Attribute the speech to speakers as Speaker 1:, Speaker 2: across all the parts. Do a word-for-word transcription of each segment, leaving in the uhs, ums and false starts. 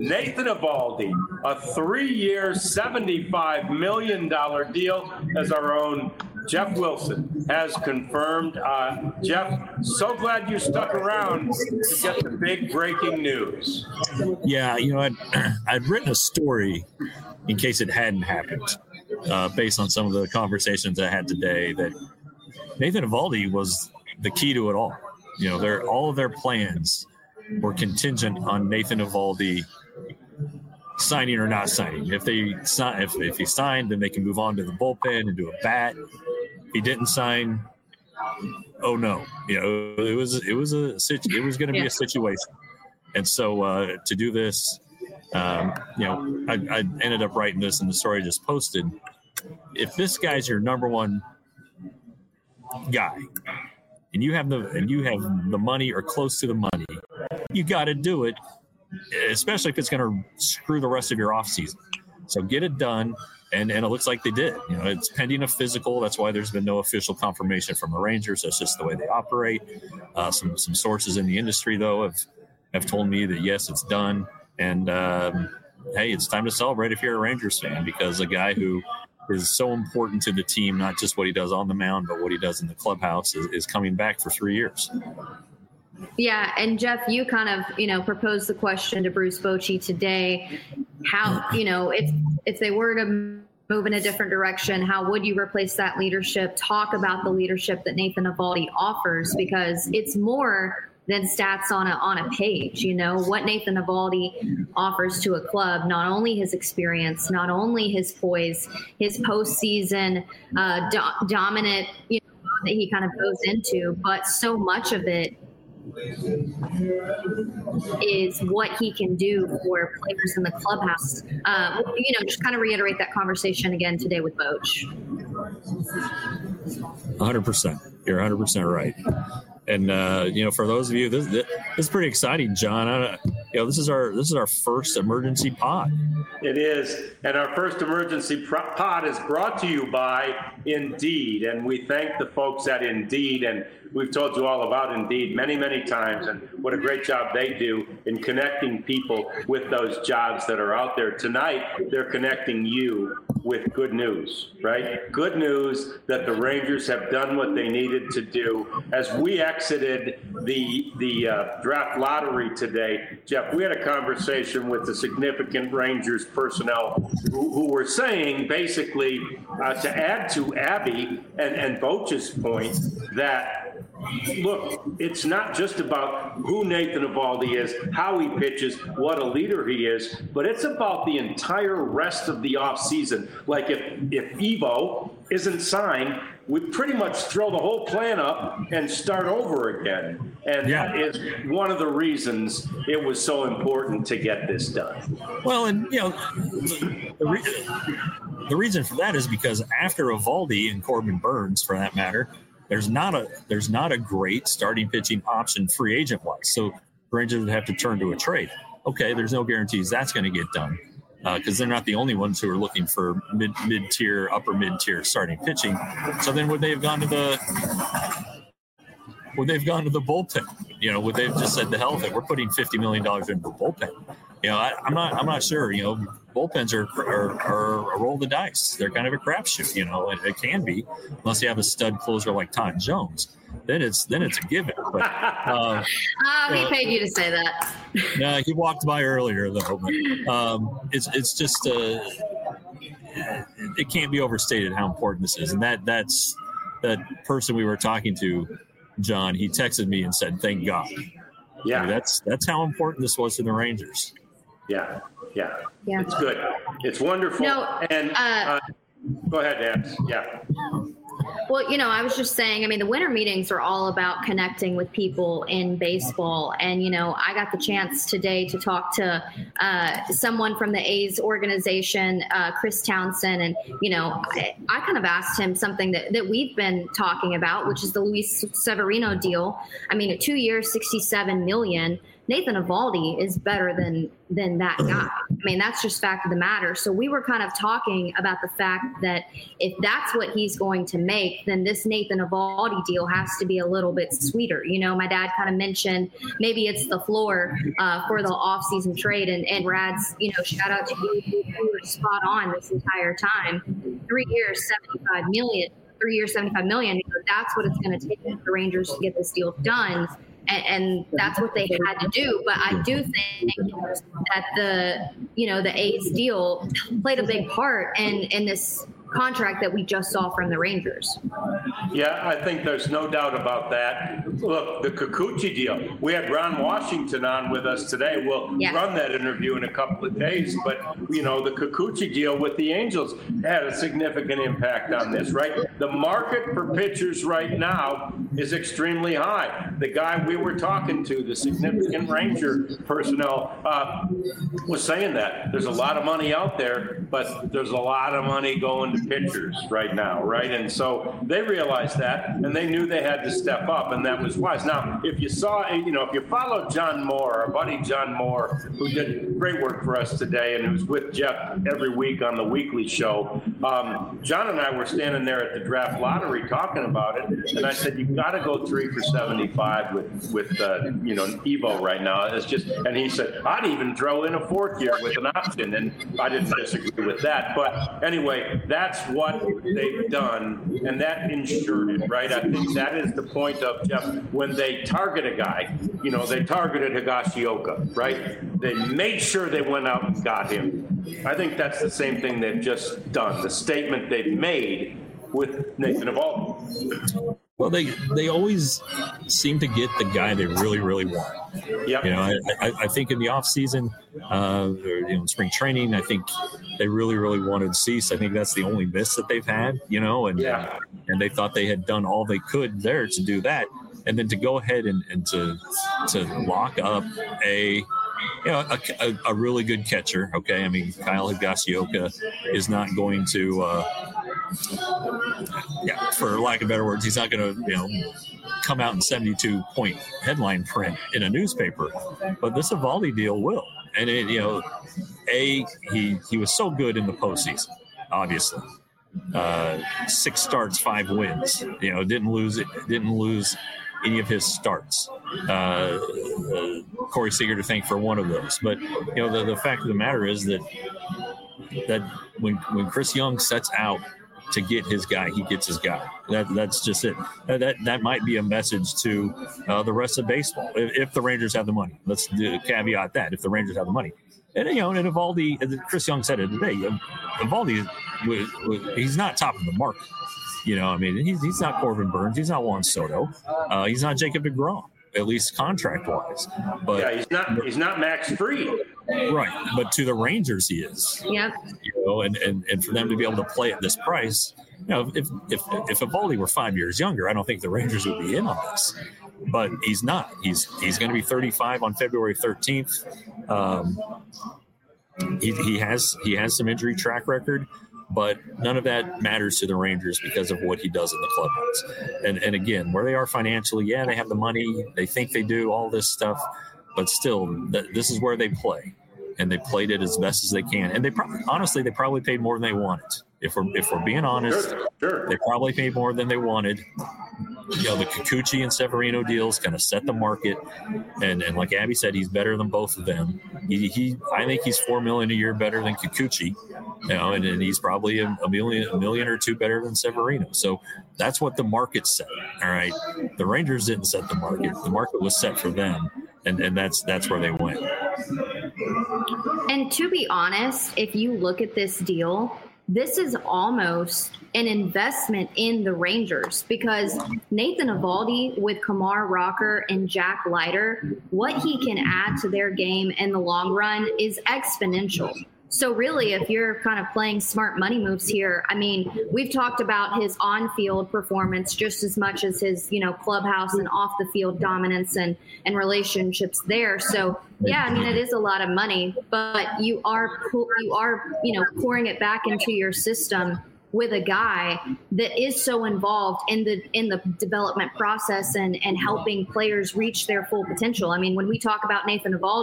Speaker 1: Nathan Eovaldi, a three-year, seventy-five million dollars deal, as our own Jeff Wilson has confirmed. Uh, Jeff, so glad you stuck around to get the big breaking news.
Speaker 2: Yeah, you know, I'd, I'd written a story in case it hadn't happened, uh, based on some of the conversations I had today, that Nathan Eovaldi was the key to it all. You know, their all of their plans were contingent on Nathan Eovaldi signing or not signing. If they sign, if, if he signed, then they can move on to the bullpen and do a bat. If he didn't sign, oh no, you know, it was it was a it was going to be a situation. And so uh, to do this, um, you know, I, I ended up writing this in the story I just posted. If this guy's your number one guy, and you have the and you have the money or close to the money, you got to do it, especially if it's going to screw the rest of your offseason. So get it done, and, and it looks like they did. You know, it's pending a physical. That's why there's been no official confirmation from the Rangers. That's just the way they operate. Uh, some some sources in the industry, though, have have told me that yes, it's done. And um, hey, it's time to celebrate if you're a Rangers fan, because a guy who is so important to the team, not just what he does on the mound, but what he does in the clubhouse, is, is coming back for three years.
Speaker 3: Yeah, and Jeff, you kind of, you know, proposed the question to Bruce Bochy today. How, you know, if if they were to move in a different direction, how would you replace that leadership? Talk about the leadership that Nathan Eovaldi offers, because it's more than stats on a on a page. You know, what Nathan Eovaldi offers to a club, not only his experience, not only his poise, his postseason uh, do- dominant, you know, that he kind of goes into, but so much of it is what he can do for players in the clubhouse. Uh, you know, just kind of reiterate that conversation again today with Boch.
Speaker 2: one hundred percent. You're one hundred percent right. And uh, you know, for those of you, this, this is pretty exciting, John. I, you know, this is our this is our first emergency pod.
Speaker 1: It is, and our first emergency pod is brought to you by Indeed, and we thank the folks at Indeed. And we've told you all about Indeed many, many times, and what a great job they do in connecting people with those jobs that are out there. Tonight, they're connecting you with good news, right? Good news that the Rangers have done what they needed to do. As we exited the the uh, draft lottery today, Jeff, we had a conversation with the significant Rangers personnel who, who were saying, basically, uh, to add to Abby and, and Boch's point, that look, it's not just about who Nathan Eovaldi is, how he pitches, what a leader he is, but it's about the entire rest of the offseason. Like if, if Evo isn't signed, we pretty much throw the whole plan up and start over again. And yeah. that is one of the reasons it was so important to get this done.
Speaker 2: Well, and, you know, the, the, re- the reason for that is because after Eovaldi and Corbin Burns, for that matter, There's not a there's not a great starting pitching option free agent wise. So the Rangers would have to turn to a trade. Okay, there's no guarantees that's going to get done because uh, they're not the only ones who are looking for mid mid tier, upper mid tier starting pitching. So then would they have gone to the would they've gone to the bullpen? You know, would they've just said the hell with it? We're putting fifty million dollars into the bullpen. You know, I, I'm not I'm not sure. You know, bullpens are, are are a roll of the dice. They're kind of a crapshoot. You know, it, it can be unless you have a stud closer like Todd Jones. Then it's then it's a given. But uh,
Speaker 3: uh, he uh, paid you to say that.
Speaker 2: Yeah, he walked by earlier though. But, um, it's it's just uh, it can't be overstated how important this is, and that that's that person we were talking to, John. He texted me and said, "Thank God." Yeah, I mean, that's that's how important this was to the Rangers.
Speaker 1: Yeah, yeah,
Speaker 3: yeah.
Speaker 1: It's good. It's wonderful.
Speaker 3: No,
Speaker 1: and
Speaker 3: uh,
Speaker 1: uh, go ahead, Nance. Yeah.
Speaker 3: Well, you know, I was just saying, I mean, the winter meetings are all about connecting with people in baseball. And, you know, I got the chance today to talk to uh, someone from the A's organization, uh, Chris Townsend. And, you know, I, I kind of asked him something that, that we've been talking about, which is the Luis Severino deal. I mean, a two years, sixty-seven million dollars. Nathan Eovaldi is better than than that guy. I mean, that's just fact of the matter. So we were kind of talking about the fact that if that's what he's going to make, then this Nathan Eovaldi deal has to be a little bit sweeter. You know, my dad kind of mentioned maybe it's the floor uh, for the offseason trade. And, and Rad's, you know, shout out to you. You were spot on this entire time. Three years, seventy-five million. Three years, seventy-five million. That's what it's going to take for the Rangers to get this deal done. And, and that's what they had to do. But I do think that the, you know, the A's deal played a big part in, in this contract that we just saw from the Rangers.
Speaker 1: Yeah, I think there's no doubt about that. Look, the Kikuchi deal. We had Ron Washington on with us today. We'll yeah. run that interview in a couple of days. But, you know, the Kikuchi deal with the Angels had a significant impact on this, right? The market for pitchers right now is extremely high. The guy we were talking to, the significant Ranger personnel, uh, was saying that. There's a lot of money out there, but there's a lot of money going to pitchers right now, right? And so they realized that, and they knew they had to step up, and that was wise. Now, if you saw, you know, if you followed John Moore, our buddy John Moore, who did great work for us today and who's with Jeff every week on the weekly show, um, John and I were standing there at the draft lottery talking about it, and I said, you've got to go three for seventy-five with, with uh, you know, Evo right now. It's just, and he said, I'd even throw in a fourth year with an option, and I didn't disagree with that. But anyway, that's what they've done, and that ensured it, right? I think that is the point of, Jeff, when they target a guy, you know, they targeted Higashioka, right? They made sure they went out and got him. I think that's the same thing they've just done, the statement they've made with Nathan Eovaldi.
Speaker 2: Well, they they always seem to get the guy they really, really want.
Speaker 1: Yep.
Speaker 2: You know, I, I, I think in the off season, uh, or, you know, spring training, I think they really, really wanted Cease. I think that's the only miss that they've had. You know, and
Speaker 1: yeah.
Speaker 2: and they thought they had done all they could there to do that, and then to go ahead and, and to to lock up a. You know, a, a, a really good catcher. Okay, I mean, Kyle Higashioka is not going to. Uh, Yeah, for lack of better words, he's not going to, you know, come out in seventy-two point headline print in a newspaper. But this Eovaldi deal will. And, it, you know, A, he, he was so good in the postseason, obviously. Uh, six starts, five wins. You know, didn't lose it, didn't lose any of his starts. Uh, uh, Corey Seager to thank for one of those. But, you know, the, the fact of the matter is that that when when Chris Young sets out to get his guy, he gets his guy. That that's just it. That that, that might be a message to uh, the rest of baseball. If, if the Rangers have the money, let's do, caveat that. If the Rangers have the money, and you know, and Eovaldi, Chris Young said it today. Eovaldi, he's not top of the market. You know, I mean, he's he's not Corbin Burns. He's not Juan Soto. Uh, he's not Jacob deGrom, at least contract wise. But
Speaker 1: yeah, he's not he's not Max Fried.
Speaker 2: Right, but to the Rangers he is.
Speaker 3: Yeah.
Speaker 2: You know, and, and, and for them to be able to play at this price, you know, if if if Eovaldi were five years younger, I don't think the Rangers would be in on this. But he's not. He's he's going to be thirty-five on February thirteenth. Um, he he has he has some injury track record, but none of that matters to the Rangers because of what he does in the clubhouse. And and again, where they are financially, yeah, they have the money, they think they do all this stuff. But still, th- this is where they play, and they played it as best as they can. And they probably, honestly, they probably paid more than they wanted. If we're if we're being honest,
Speaker 1: sure, sure.
Speaker 2: They probably paid more than they wanted. You know, the Kikuchi and Severino deals kind of set the market, and and like Abby said, he's better than both of them. He, he I think he's four million a year better than Kikuchi, you know, and, and he's probably a, a million a million or two better than Severino. So that's what the market set. All right, the Rangers didn't set the market; the market was set for them. And and that's that's where they went.
Speaker 3: And to be honest, if you look at this deal, this is almost an investment in the Rangers because Nathan Eovaldi with Kumar Rocker and Jack Leiter, what he can add to their game in the long run is exponential. So really, if you're kind of playing smart money moves here, I mean, we've talked about his on-field performance just as much as his, you know, clubhouse and off-the-field dominance and, and relationships there. So, yeah, I mean, it is a lot of money, but you are, you are, you know, pouring it back into your system with a guy that is so involved in the in the development process and, and helping players reach their full potential. I mean, when we talk about Nathan Eovaldi,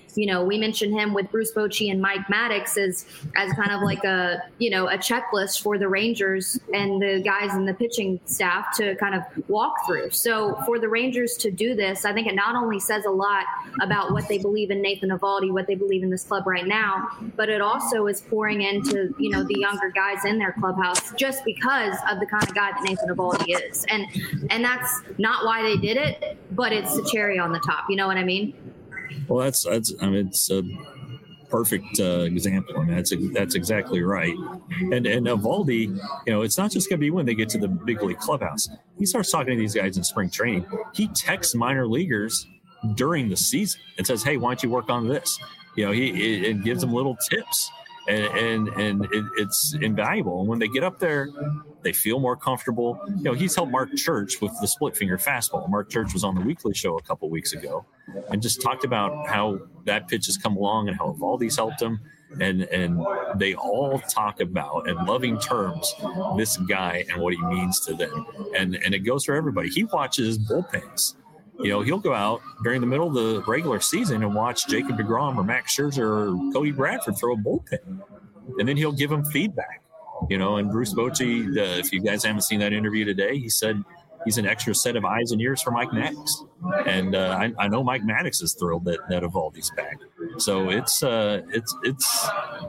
Speaker 3: you know, we mentioned him with Bruce Bochy and Mike Maddox as, as kind of like a, you know, a checklist for the Rangers and the guys in the pitching staff to kind of walk through. So for the Rangers to do this, I think it not only says a lot about what they believe in Nathan Eovaldi, what they believe in this club right now, but it also is pouring into, you know, the younger guys in their clubhouse just because of the kind of guy that Nathan Eovaldi is. And, and that's not why they did it, but it's the cherry on the top. You know what I mean?
Speaker 2: Well, that's, that's, I mean, it's a perfect uh, example. I mean, that's, that's exactly right. And, and Eovaldi, you know, it's not just going to be when they get to the big league clubhouse. He starts talking to these guys in spring training. He texts minor leaguers during the season and says, hey, why don't you work on this? You know, he it, it gives them little tips, and and, and it, it's invaluable. And when they get up there, they feel more comfortable. You know, he's helped Mark Church with the split finger fastball. Mark Church was on the weekly show a couple weeks ago and just talked about how that pitch has come along and how Eovaldi's helped him. And and they all talk about, in loving terms, this guy and what he means to them. And and it goes for everybody. He watches bullpens. You know, he'll go out during the middle of the regular season and watch Jacob deGrom or Max Scherzer or Cody Bradford throw a bullpen. And then he'll give them feedback. You know, and Bruce Bochy, uh, if you guys haven't seen that interview today, he said he's an extra set of eyes and ears for Mike Maddox. And uh, I, I know Mike Maddox is thrilled that, that Eovaldi's back. So it's, uh, it's, it's,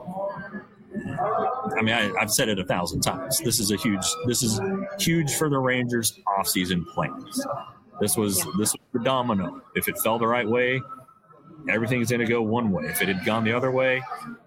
Speaker 2: I mean, I, I've said it a thousand times. This is a huge, this is huge for the Rangers' offseason plans. This was, this was the domino. If it fell the right way, everything's going to go one way. If it had gone the other way,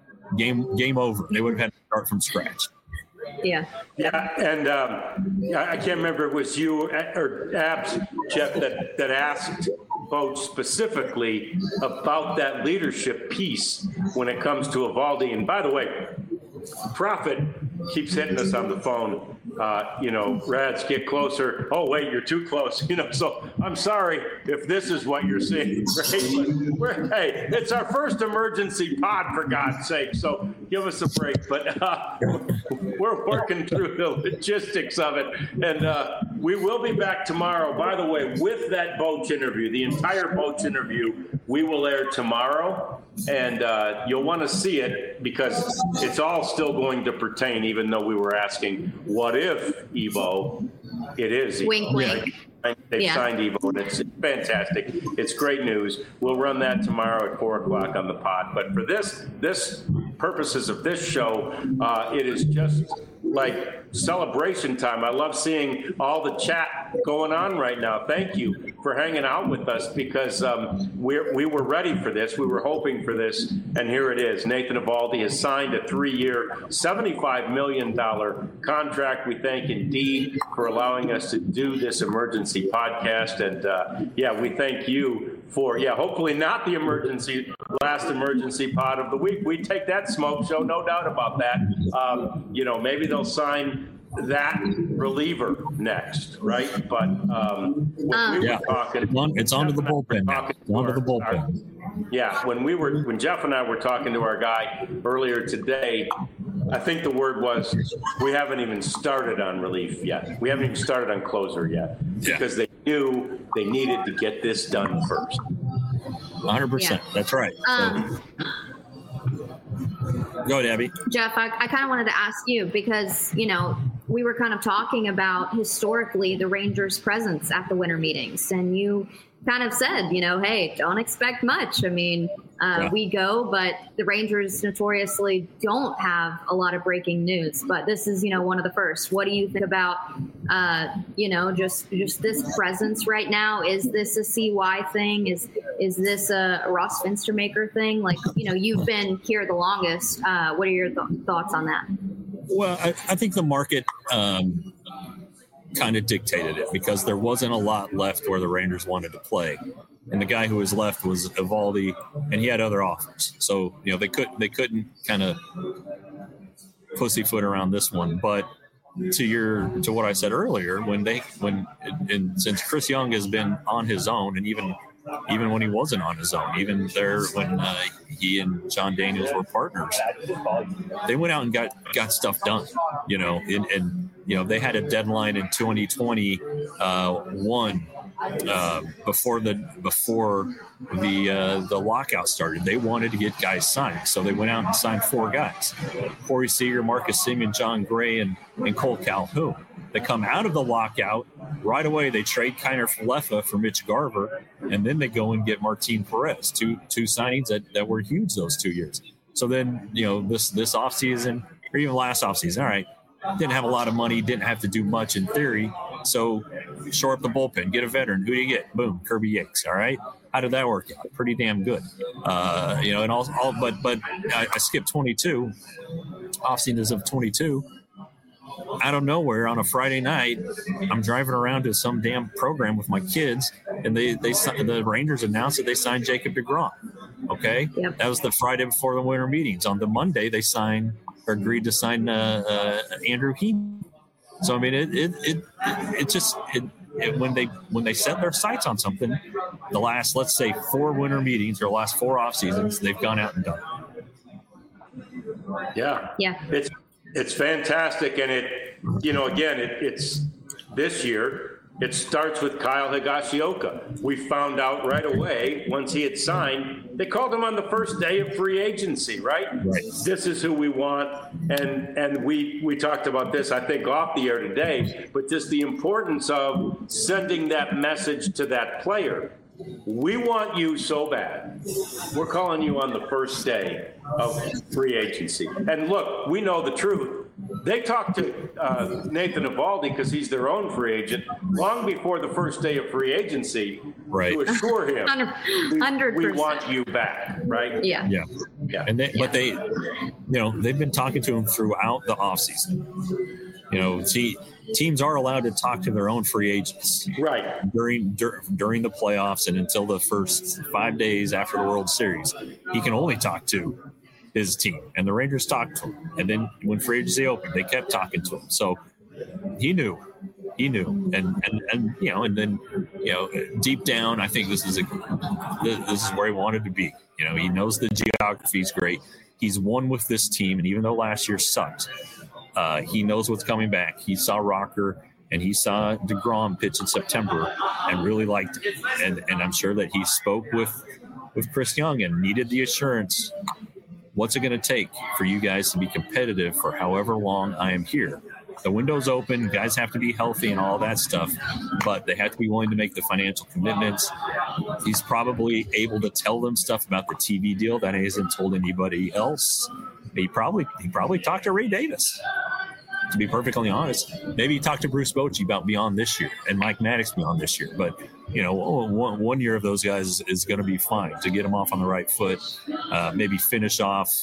Speaker 2: game, game over. They would have had to start from scratch.
Speaker 3: Yeah.
Speaker 1: Yeah, and um, I can't remember if it was you or Abs, Jeff, that, that asked Boch specifically about that leadership piece when it comes to Eovaldi. And by the way, Prophet keeps hitting us on the phone. Uh, you know, Rads, get closer. Oh, wait, you're too close. You know, so I'm sorry if this is what you're seeing. Right? But we're, hey, it's our first emergency pod, for God's sake. So give us a break. But uh, we're working through the logistics of it. And uh, we will be back tomorrow. By the way, with that Boch interview, the entire Boch interview, we will air tomorrow. And uh, you'll want to see it because it's all still going to pertain, even though we were asking, what if Evo? It is. Evo.
Speaker 3: Wink, wink.
Speaker 1: They've
Speaker 3: yeah.
Speaker 1: signed Evo, and it's fantastic. It's great news. We'll run that tomorrow at four o'clock on the pod. But for this, this purposes of this show, uh, it is just like celebration time. I love seeing all the chat going on right now. Thank you for hanging out with us because um, we're, we were ready for this. We were hoping for this, and here it is. Nathan Eovaldi has signed a three-year, seventy-five million dollars contract. We thank Indeed for allowing us to do this emergency podcast. And, uh, yeah, we thank you for, yeah, hopefully not the emergency, last emergency pod of the week. We take that smoke show, no doubt about that. Um, you know, maybe they'll sign that reliever next, right? But um, when
Speaker 3: um,
Speaker 1: we were
Speaker 2: yeah.
Speaker 1: talking,
Speaker 2: it's, on, it's onto the bullpen. Now. It's onto the bullpen.
Speaker 1: Our, yeah, when we were, when Jeff and I were talking to our guy earlier today, I think the word was we haven't even started on relief yet. We haven't even started on closer yet
Speaker 2: yeah.
Speaker 1: because they knew they needed to get this done first.
Speaker 2: one hundred percent. Yeah. That's right.
Speaker 3: Um,
Speaker 2: so, go ahead, Abby.
Speaker 3: Jeff, I, I kind of wanted to ask you because, you know, we were kind of talking about historically the Rangers' presence at the winter meetings, and you kind of said, you know, hey, don't expect much. I mean, uh, yeah. we go, but the Rangers notoriously don't have a lot of breaking news. But this is, you know, one of the first. What do you think about, uh, you know, just just this presence right now? Is this a C Y thing? Is is this a Ross Finstermaker thing? Like, you know, you've been here the longest. Uh, what are your th- thoughts on that?
Speaker 2: Well, I, I think the market um, kind of dictated it because there wasn't a lot left where the Rangers wanted to play. And the guy who was left was Eovaldi, and he had other offers. So, you know, they couldn't they couldn't kind of pussyfoot around this one. But to your to what I said earlier, when they when and since Chris Young has been on his own, and even even when he wasn't on his own, even there when uh, he and John Daniels were partners, they went out and got got stuff done. You know, and, and you know they had a deadline in twenty twenty-one uh, before the before the uh, the lockout started. They wanted to get guys signed, so they went out and signed four guys: Corey Seager, Marcus Semien, John Gray, and and Cole Calhoun. They come out of the lockout right away. They trade Kiner Falefa for Mitch Garver, and then they go and get Martin Perez, two two signings that, that were huge those two years. So then, you know, this this offseason, or even last offseason, all right, didn't have a lot of money, didn't have to do much in theory. So shore up the bullpen, get a veteran. Who do you get? Boom, Kirby Yates. All right. How did that work out? Pretty damn good. Uh, you know, and all, all but but I, I skipped twenty-two, offseasons of twenty-two. Out of nowhere on a Friday night, I'm driving around to some damn program with my kids, and they they the Rangers announced that they signed Jacob deGrom. Okay, yep. That was the Friday before the winter meetings. On the Monday, they signed or agreed to sign uh, uh, Andrew Heaney. So I mean, it it it, it just it, it, when they when they set their sights on something, the last let's say four winter meetings or last four off seasons, they've gone out and done it.
Speaker 1: Yeah,
Speaker 3: yeah,
Speaker 1: it's. It's fantastic, and it, you know, again, it, it's this year. It starts with Kyle Higashioka. We found out right away once he had signed. They called him on the first day of free agency, right?
Speaker 2: Right.
Speaker 1: This is who we want, and and we we talked about this, I think, off the air today. But just the importance of sending that message to that player. We want you so bad. We're calling you on the first day of free agency. And look, we know the truth. They talked to uh, Nathan Eovaldi because he's their own free agent long before the first day of free agency
Speaker 2: right.
Speaker 1: to assure him
Speaker 3: one hundred percent.
Speaker 1: We, we want you back, right?
Speaker 3: Yeah.
Speaker 2: Yeah.
Speaker 1: Yeah.
Speaker 2: And they,
Speaker 3: yeah.
Speaker 2: But they, you know, they've been talking to him throughout the offseason. You know, see, teams are allowed to talk to their own free agents
Speaker 1: right
Speaker 2: during dur- during the playoffs and until the first five days after the World Series. He can only talk to his team, and the Rangers talked to him. And then when free agency opened, they kept talking to him. So he knew, he knew, and and and you know, and then you know, deep down, I think this is a this is where he wanted to be. You know, he knows the geography is great. He's won with this team, and even though last year sucked. Uh, he knows what's coming back. He saw Rocker and he saw deGrom pitch in September and really liked it. And and I'm sure that he spoke with with Chris Young and needed the assurance. What's it going to take for you guys to be competitive for however long I am here? The window's open. Guys have to be healthy and all that stuff, but they have to be willing to make the financial commitments. He's probably able to tell them stuff about the T V deal that he hasn't told anybody else. He probably he probably talked to Ray Davis, to be perfectly honest. Maybe he talked to Bruce Bochy about beyond this year and Mike Maddox beyond this year. But, you know, one, one year of those guys is, is going to be fine to get them off on the right foot, uh, maybe finish off,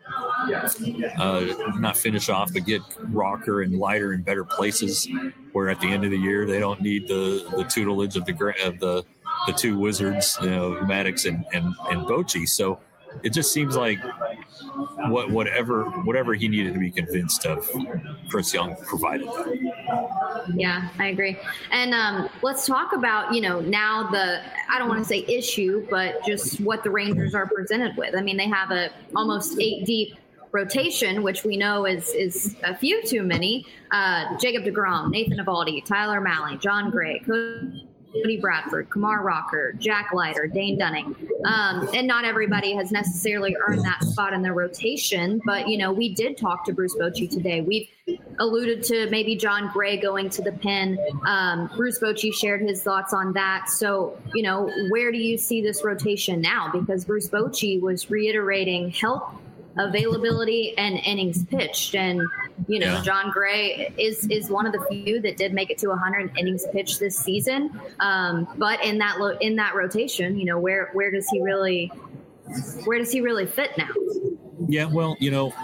Speaker 2: uh, not finish off, but get Rocker and Leiter in better places where at the end of the year they don't need the, the tutelage of the of the, the two wizards, you know, Maddox and, and, and Bochy. So it just seems like what whatever whatever he needed to be convinced of, Chris Young provided that.
Speaker 3: Yeah, I agree. And um, let's talk about, you know, now the, I don't want to say issue, but just what the Rangers are presented with. I mean, they have a almost eight deep rotation, which we know is is a few too many. Uh, Jacob deGrom, Nathan Eovaldi, Tyler Mahle, John Gray, Cody Bradford, Kumar Rocker, Jack Leiter, Dane Dunning. Um, and not everybody has necessarily earned that spot in their rotation, but, you know, we did talk to Bruce Bochy today. We've alluded to maybe John Gray going to the pen. Um, Bruce Bochy shared his thoughts on that. So, you know, where do you see this rotation now? Because Bruce Bochy was reiterating health, availability, and innings pitched. And, you know, yeah. John Gray is is one of the few that did make it to one hundred innings pitched this season. Um, but in that lo- in that rotation, you know, where where does he really where does he really fit now?
Speaker 2: Yeah, well, you know,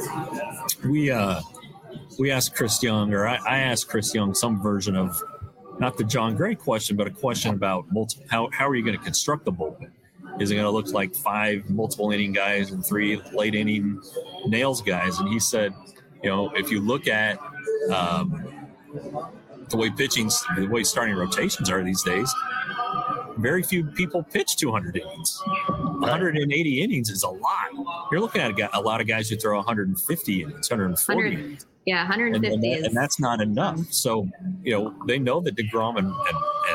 Speaker 2: we uh, we asked Chris Young, or I, I asked Chris Young some version of not the John Gray question, but a question about multi- how how are you going to construct the bullpen? Is it going to look like five multiple inning guys and three late inning nails guys? And he said, you know, if you look at um, the way pitching's, the way starting rotations are these days, very few people pitch two hundred innings. one hundred eighty innings is a lot. You're looking at a, guy, a lot of guys who throw one hundred fifty innings, one hundred forty innings.
Speaker 3: Yeah, one hundred fifty
Speaker 2: and, and,
Speaker 3: is.
Speaker 2: and that's not enough. So, you know, they know that deGrom and, and, and, and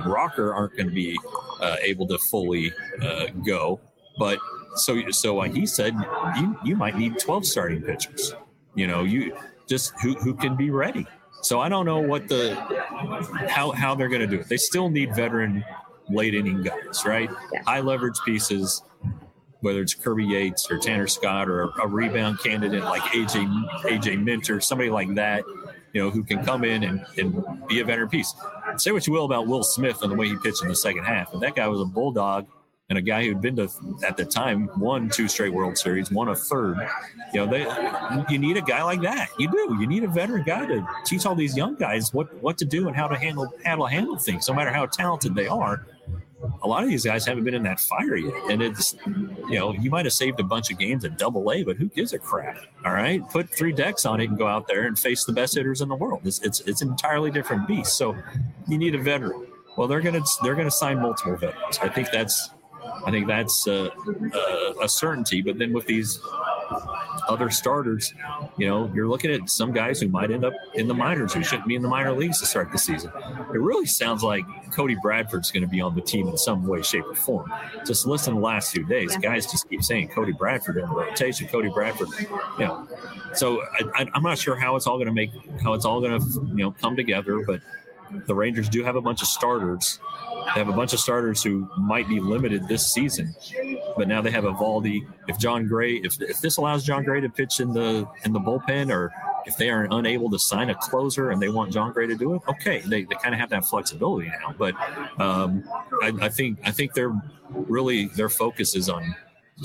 Speaker 2: and Rocker aren't going to be uh, able to fully uh, go. But so so like he said, you you might need twelve starting pitchers. You know, you just who who can be ready. So I don't know what the how how they're going to do it. They still need veteran late inning guys, right?
Speaker 3: Yeah.
Speaker 2: High leverage pieces, whether it's Kirby Yates or Tanner Scott or a, a rebound candidate like A J A J Minter, somebody like that, you know, who can come in and, and be a veteran piece. Say what you will about Will Smith and the way he pitched in the second half, but that guy was a bulldog and a guy who'd been to, at the time, won two straight World Series, won a third. You know, they you need a guy like that. You do. You need a veteran guy to teach all these young guys what, what to do and how to handle how to handle things, no matter how talented they are. A lot of these guys haven't been in that fire yet. And it's, you know, you might have saved a bunch of games at double A, but who gives a crap? All right. Put three decks on it and go out there and face the best hitters in the world. It's it's, it's an entirely different beast. So you need a veteran. Well, they're going to, they're going to sign multiple veterans. I think that's, I think that's uh, uh, a certainty. But then with these other starters, you know, you're looking at some guys who might end up in the minors who shouldn't be in the minor leagues to start the season. It really sounds like Cody Bradford's going to be on the team in some way, shape, or form. Just listen to the last few days. Yeah. Guys just keep saying Cody Bradford in the rotation, Cody Bradford. You know, so I, I, I'm not sure how it's all going to make, how it's all going to, you know, come together. But the Rangers do have a bunch of starters. They have a bunch of starters who might be limited this season, but now they have Eovaldi. If John Gray, if if this allows John Gray to pitch in the in the bullpen, or if they are unable to sign a closer and they want John Gray to do it, okay, they, they kind of have that flexibility now. But um, I, I think I think they're really their focus is on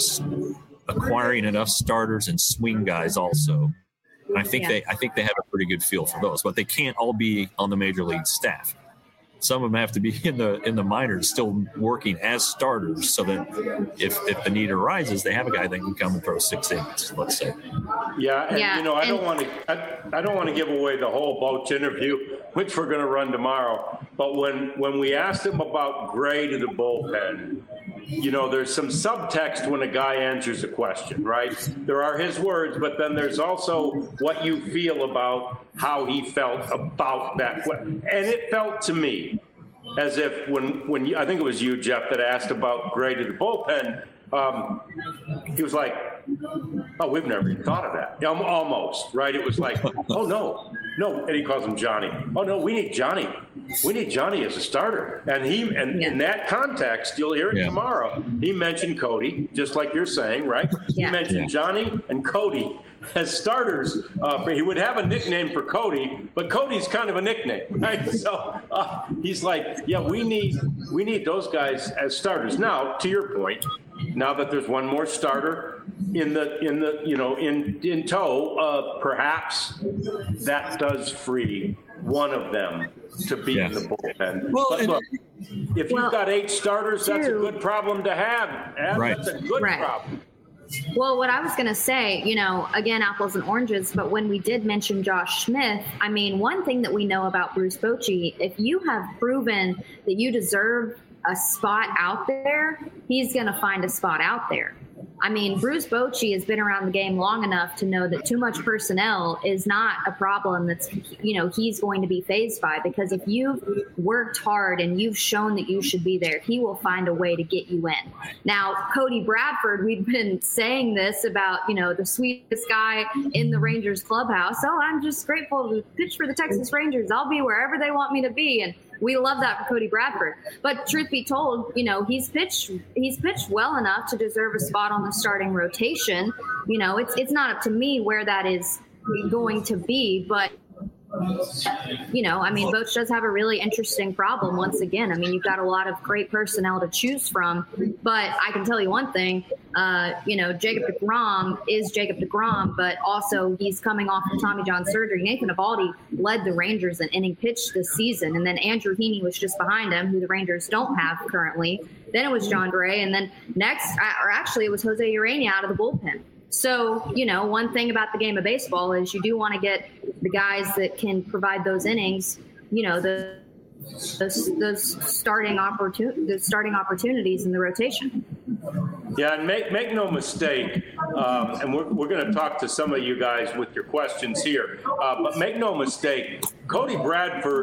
Speaker 2: acquiring enough starters and swing guys also. And I think yeah. they I think they have a pretty good feel for those, but they can't all be on the major league staff. Some of them have to be in the in the minors, still working as starters, so that if, if the need arises, they have a guy that can come and throw six innings, let's say.
Speaker 1: Yeah, and
Speaker 3: yeah,
Speaker 1: you know, I
Speaker 3: and-
Speaker 1: don't want to I, I don't want to give away the whole Boch interview, which we're going to run tomorrow. But when when we asked him about Gray to the bullpen, you know, there's some subtext when a guy answers a question, right? There are his words, but then there's also what you feel about how he felt about that. And it felt to me as if when, when you, I think it was you, Jeff, that asked about Gray to the bullpen, um, he was like, oh, we've never even thought of that. Yeah, almost, right? It was like, oh, no, no. And he calls him Johnny. Oh, no, we need Johnny. We need Johnny as a starter. And he, and yeah. in that context, you'll hear it yeah. tomorrow. He mentioned Cody, just like you're saying, right? Yeah. He mentioned yeah. Johnny and Cody as starters. Uh, he would have a nickname for Cody, but Cody's kind of a nickname, right? So uh, he's like, yeah, we need we need those guys as starters. Now, to your point, now that there's one more starter in the in the you know in in tow, uh, perhaps that does free one of them to be yes. in the bullpen. Well, but look, if well, you've got eight starters, that's a good problem to have. Ab.
Speaker 2: Right.
Speaker 1: That's a good
Speaker 3: right.
Speaker 1: problem.
Speaker 3: Well, what I was going to say, you know, again, apples and oranges, but when we did mention Josh Smith, I mean, one thing that we know about Bruce Bochy, if you have proven that you deserve a spot out there, he's going to find a spot out there. I mean, Bruce Bochy has been around the game long enough to know that too much personnel is not a problem that's, you know, he's going to be fazed by, because if you've worked hard and you've shown that you should be there, he will find a way to get you in. Now, Cody Bradford, we've been saying this about, you know, the sweetest guy in the Rangers clubhouse. Oh, I'm just grateful to pitch for the Texas Rangers. I'll be wherever they want me to be. And we love that for Cody Bradford. But truth be told, you know, he's pitched he's pitched well enough to deserve a spot on the starting rotation. You know, it's it's not up to me where that is going to be, but you know, I mean, Boch does have a really interesting problem once again. I mean, you've got a lot of great personnel to choose from, but I can tell you one thing, uh, you know, Jacob deGrom is Jacob deGrom, but also he's coming off of Tommy John surgery. Nathan Eovaldi led the Rangers in inning pitch this season, and then Andrew Heaney was just behind him, who the Rangers don't have currently. Then it was John Gray, and then next, or actually it was Jose Urena out of the bullpen. So, you know, one thing about the game of baseball is you do want to get the guys that can provide those innings, you know, the those, those starting opportun- the starting opportunities in the rotation.
Speaker 1: Yeah, and make make no mistake, um, and we're, we're going to talk to some of you guys with your questions here, uh, but make no mistake, Cody Bradford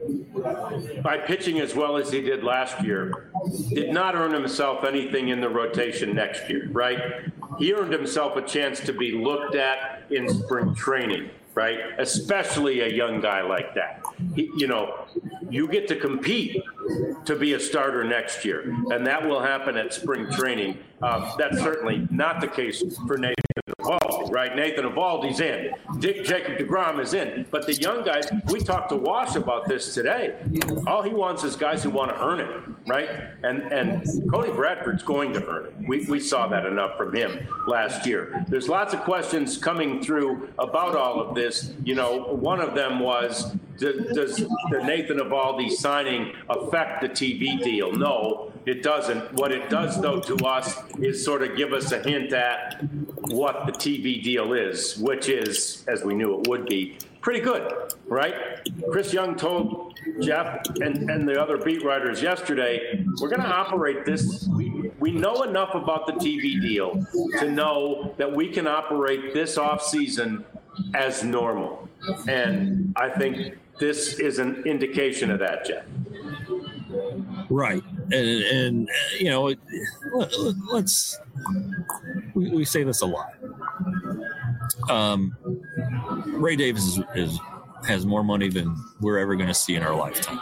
Speaker 1: by pitching as well as he did last year, did not earn himself anything in the rotation next year, right? He earned himself a chance to be looked at in spring training, right? Especially a young guy like that. He, you know, you get to compete to be a starter next year, and that will happen at spring training. Uh, that's certainly not the case for Nathan Eovaldi, right? Nathan Eovaldi's in. Dick Jacob deGrom is in. But the young guys, we talked to Wash about this today. All he wants is guys who want to earn it, right? And and Cody Bradford's going to earn it. We, we saw that enough from him last year. There's lots of questions coming through about all of this. You know, one of them was, does, does the Nathan Eovaldi signing affect the T V deal? No, it doesn't. What it does, though, to us is sort of give us a hint at what the T V deal is, which is, as we knew it would be, pretty good, right? Chris Young told Jeff and, and the other beat writers yesterday, we're going to operate this. We, we know enough about the T V deal to know that we can operate this offseason as normal. And I think this is an indication of that, Jeff.
Speaker 2: Right. And, and you know, let's, we, we say this a lot. Um, Ray Davis is, is has more money than we're ever going to see in our lifetime.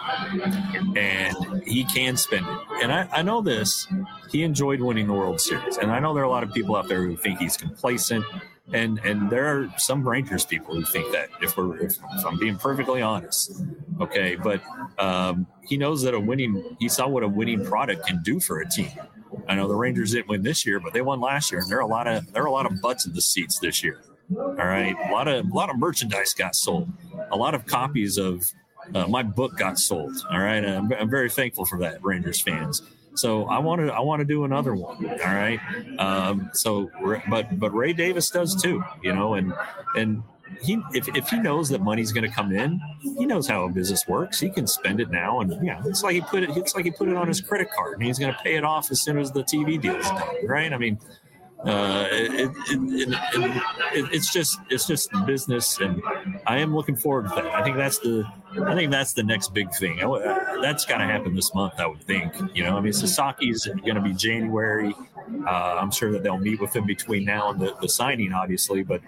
Speaker 2: And he can spend it. And I, I know this. He enjoyed winning the World Series. And I know there are a lot of people out there who think he's complacent. And and there are some Rangers people who think that, if we're if, if I'm being perfectly honest. Okay, but um, he knows that a winning he saw what a winning product can do for a team. I know the Rangers didn't win this year, but they won last year, and there are a lot of there are a lot of butts in the seats this year. All right, a lot of a lot of merchandise got sold, a lot of copies of uh, my book got sold. All right, I'm, I'm very thankful for that, Rangers fans. So I want to I want to do another one. All right. Um, so, but but Ray Davis does too, you know, and and he if, if he knows that money's going to come in, he knows how a business works. He can spend it now, and yeah, it's like he put it. It's like he put it on his credit card, and he's going to pay it off as soon as the T V deal is done. Right. I mean, uh, it, it, it, it, it, it's just it's just business, and I am looking forward to that. I think that's the. I think that's the next big thing. That's got to happen this month, I would think. You know, I mean, Sasaki's going to be January. Uh, I'm sure that they'll meet with him between now and the, the signing, obviously. But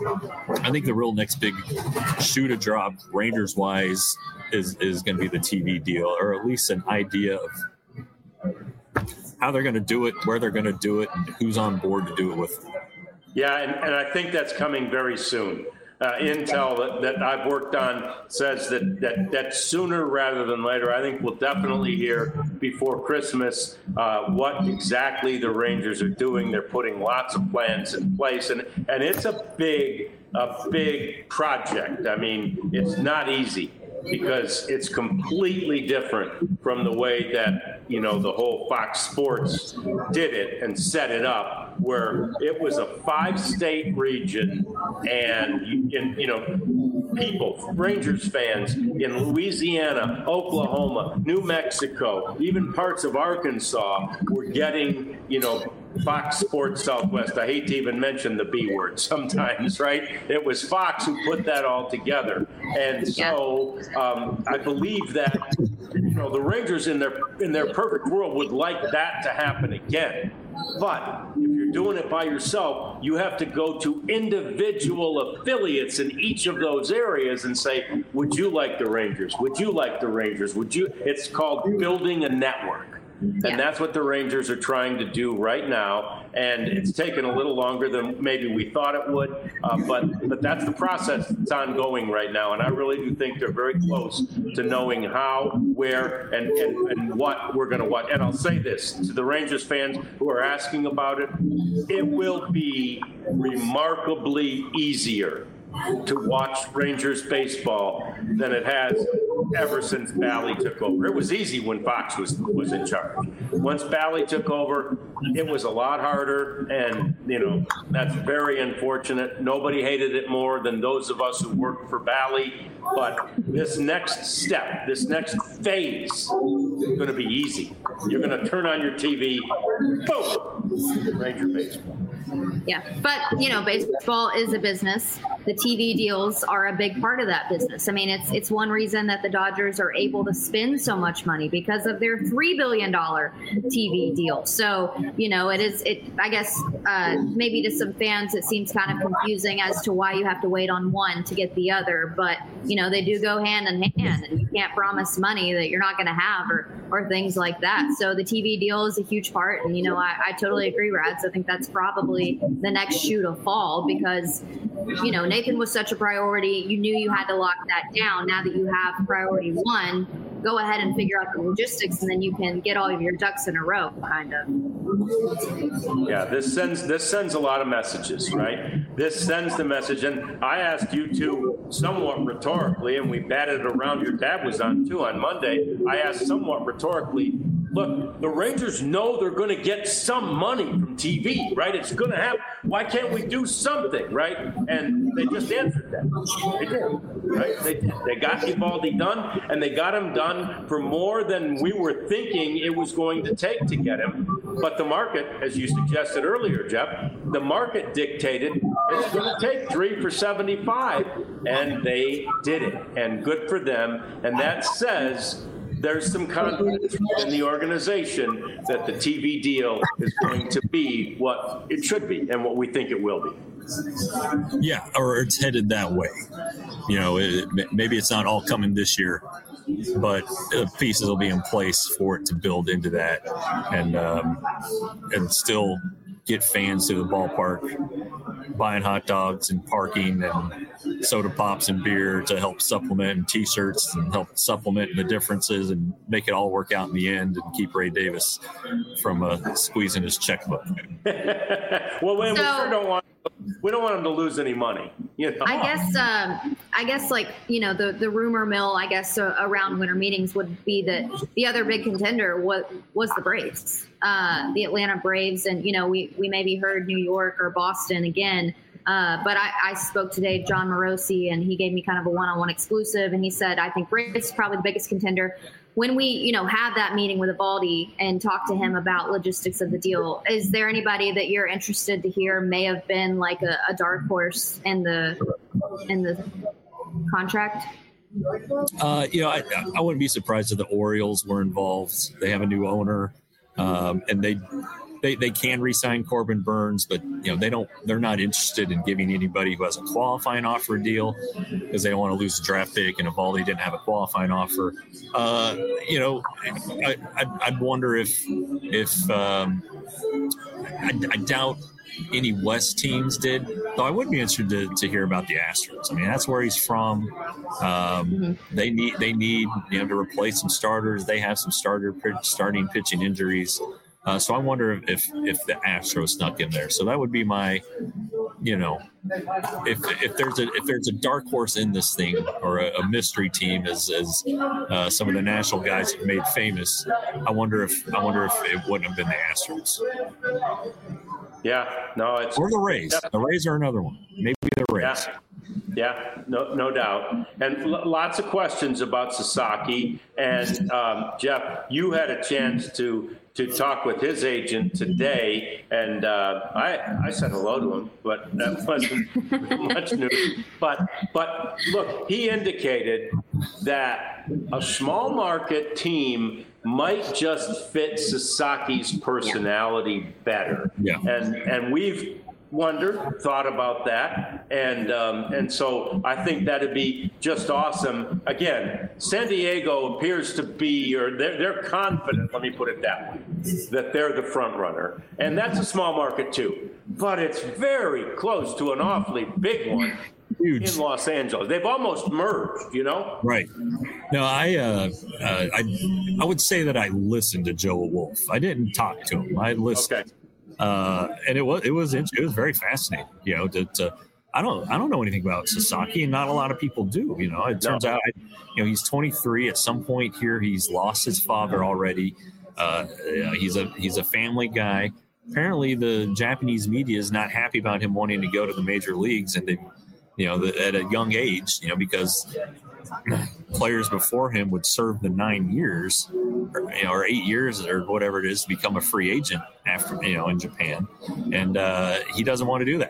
Speaker 2: I think the real next big shoe to drop, Rangers-wise, is, is going to be the T V deal, or at least an idea of how they're going to do it, where they're going to do it, and who's on board to do it with them.
Speaker 1: Yeah, and, and I think that's coming very soon. Uh, intel that, that I've worked on says that, that that sooner rather than later. I think we'll definitely hear before Christmas uh, what exactly the Rangers are doing. They're putting lots of plans in place, and, and it's a big, a big project. I mean, it's not easy because it's completely different from the way that, you know, the whole Fox Sports did it and set it up, where it was a five-state region, and, you, you know, people, Rangers fans in Louisiana, Oklahoma, New Mexico, even parts of Arkansas were getting, you know, Fox Sports Southwest. I hate to even mention the B word sometimes, right? It was Fox who put that all together. And so um, I believe that, you know, the Rangers in their in their perfect world would like that to happen again. But if you're doing it by yourself, you have to go to individual affiliates in each of those areas and say, would you like the Rangers? Would you like the Rangers? Would you? It's called building a network. And yeah. That's what the Rangers are trying to do right now. And it's taken a little longer than maybe we thought it would. Uh, but but that's the process that's ongoing right now. And I really do think they're very close to knowing how, where, and, and, and what we're going to watch. And I'll say this to the Rangers fans who are asking about it. It will be remarkably easier to watch Rangers baseball than it has ever since Bally took over. It was easy when Fox was was in charge. Once Bally took over, it was a lot harder, and, you know, that's very unfortunate. Nobody hated it more than those of us who worked for Bally. But this next step, this next phase is going to be easy. You're going to turn on your T V, boom, Ranger baseball.
Speaker 3: Yeah, but, you know, baseball is a business. the T V deals are a big part of that business. I mean, it's it's one reason that the Dodgers are able to spend so much money because of their three billion dollars T V deal. So, you know, it is, it. I guess, uh, maybe to some fans, it seems kind of confusing as to why you have to wait on one to get the other. But, you know, they do go hand in hand, and you can't promise money that you're not going to have or, or things like that. So the T V deal is a huge part. And, you know, I, I totally agree, Rads. I think that's probably the next shoe to fall because, you know, Nathan was such a priority. You knew you had to lock that down. Now that you have priority one, go ahead and figure out the logistics, and then you can get all of your ducks in a row, kind of.
Speaker 1: Yeah, this sends this sends a lot of messages, right? This sends the message, and I asked you two somewhat rhetorically, and we batted it around. Your dad was on too on Monday. I asked somewhat rhetorically, look, the Rangers know they're going to get some money from T V, right? It's going to happen. Why can't we do something, right? And they just answered that. They did, right? They did. They got Eovaldi done, and they got him done for more than we were thinking it was going to take to get him. But the market, as you suggested earlier, Jeff, the market dictated it's going to take three for seventy-five, and they did it. And good for them. And that says there's some confidence in the organization that the T V deal is going to be what it should be and what we think it will be.
Speaker 2: Yeah, or it's headed that way. You know, it, maybe it's not all coming this year, but the pieces will be in place for it to build into that and um, and still get fans to the ballpark, buying hot dogs and parking and soda pops and beer to help supplement, and T-shirts and help supplement the differences and make it all work out in the end and keep Ray Davis from uh, squeezing his checkbook.
Speaker 1: Well, we,
Speaker 3: so,
Speaker 1: we sure don't want we don't want him to lose any money. You know?
Speaker 3: I guess um, I guess like you know the the rumor mill I guess uh, around winter meetings would be that the other big contender was was the Braves. Uh, the Atlanta Braves, and you know we we maybe heard New York or Boston again, uh, but I, I spoke today to John Morosi, and he gave me kind of a one-on-one exclusive, and he said I think Braves is probably the biggest contender. When we you know had that meeting with Eovaldi and talked to him about logistics of the deal, is there anybody that you're interested to hear may have been like a, a dark horse in the in the contract?
Speaker 2: Uh, you know, I, I wouldn't be surprised if the Orioles were involved. They have a new owner. Um, and they, they they can re-sign Corbin Burns, but you know they don't. They're not interested in giving anybody who has a qualifying offer a deal because they don't want to lose a draft pick. And Eovaldi didn't have a qualifying offer. Uh, you know, I, I I'd wonder if if um, I, I doubt any West teams did. Though I would be interested to, to hear about the Astros. I mean, that's where he's from. Um, mm-hmm. They need they need you know to replace some starters. They have some starter starting pitching injuries. Uh, so I wonder if if the Astros snuck in there. So that would be my, you know, if if there's a if there's a dark horse in this thing or a, a mystery team, as as uh, some of the national guys have made famous. I wonder if I wonder if it wouldn't have been the Astros.
Speaker 1: Yeah, no, it's
Speaker 2: or the Rays. Yeah. The Rays are another one. Maybe the Rays.
Speaker 1: Yeah. Yeah, no, no doubt. And l- lots of questions about Sasaki. And um, Jeff, you had a chance to to talk with his agent today, and uh, I I said hello to him, but that wasn't much news. But but look, he indicated that a small market team might just fit Sasaki's personality better.
Speaker 2: Yeah.
Speaker 1: And and we've wondered, thought about that, and um, and so I think that'd be just awesome. Again, San Diego appears to be, or they're, they're confident, let me put it that way, that they're the front runner, and that's a small market too, but it's very close to an awfully big one. Huge. In Los Angeles. They've almost merged, you know? Right.
Speaker 2: No, I, uh, uh, I I would say that I listened to Joe Wolf. I didn't talk to him. I listened. Okay. Uh, and it was it was it was very fascinating, you know. To, to I don't I don't know anything about Sasaki, and not a lot of people do. You know, it turns no. out, you know, he's twenty-three. At some point here, he's lost his father already. Uh, he's a he's a family guy. Apparently, the Japanese media is not happy about him wanting to go to the major leagues, and they, you know, the, at a young age, you know, because players before him would serve the nine years or, you know, or eight years or whatever it is to become a free agent after, you know, in Japan. And uh, he doesn't want to do that.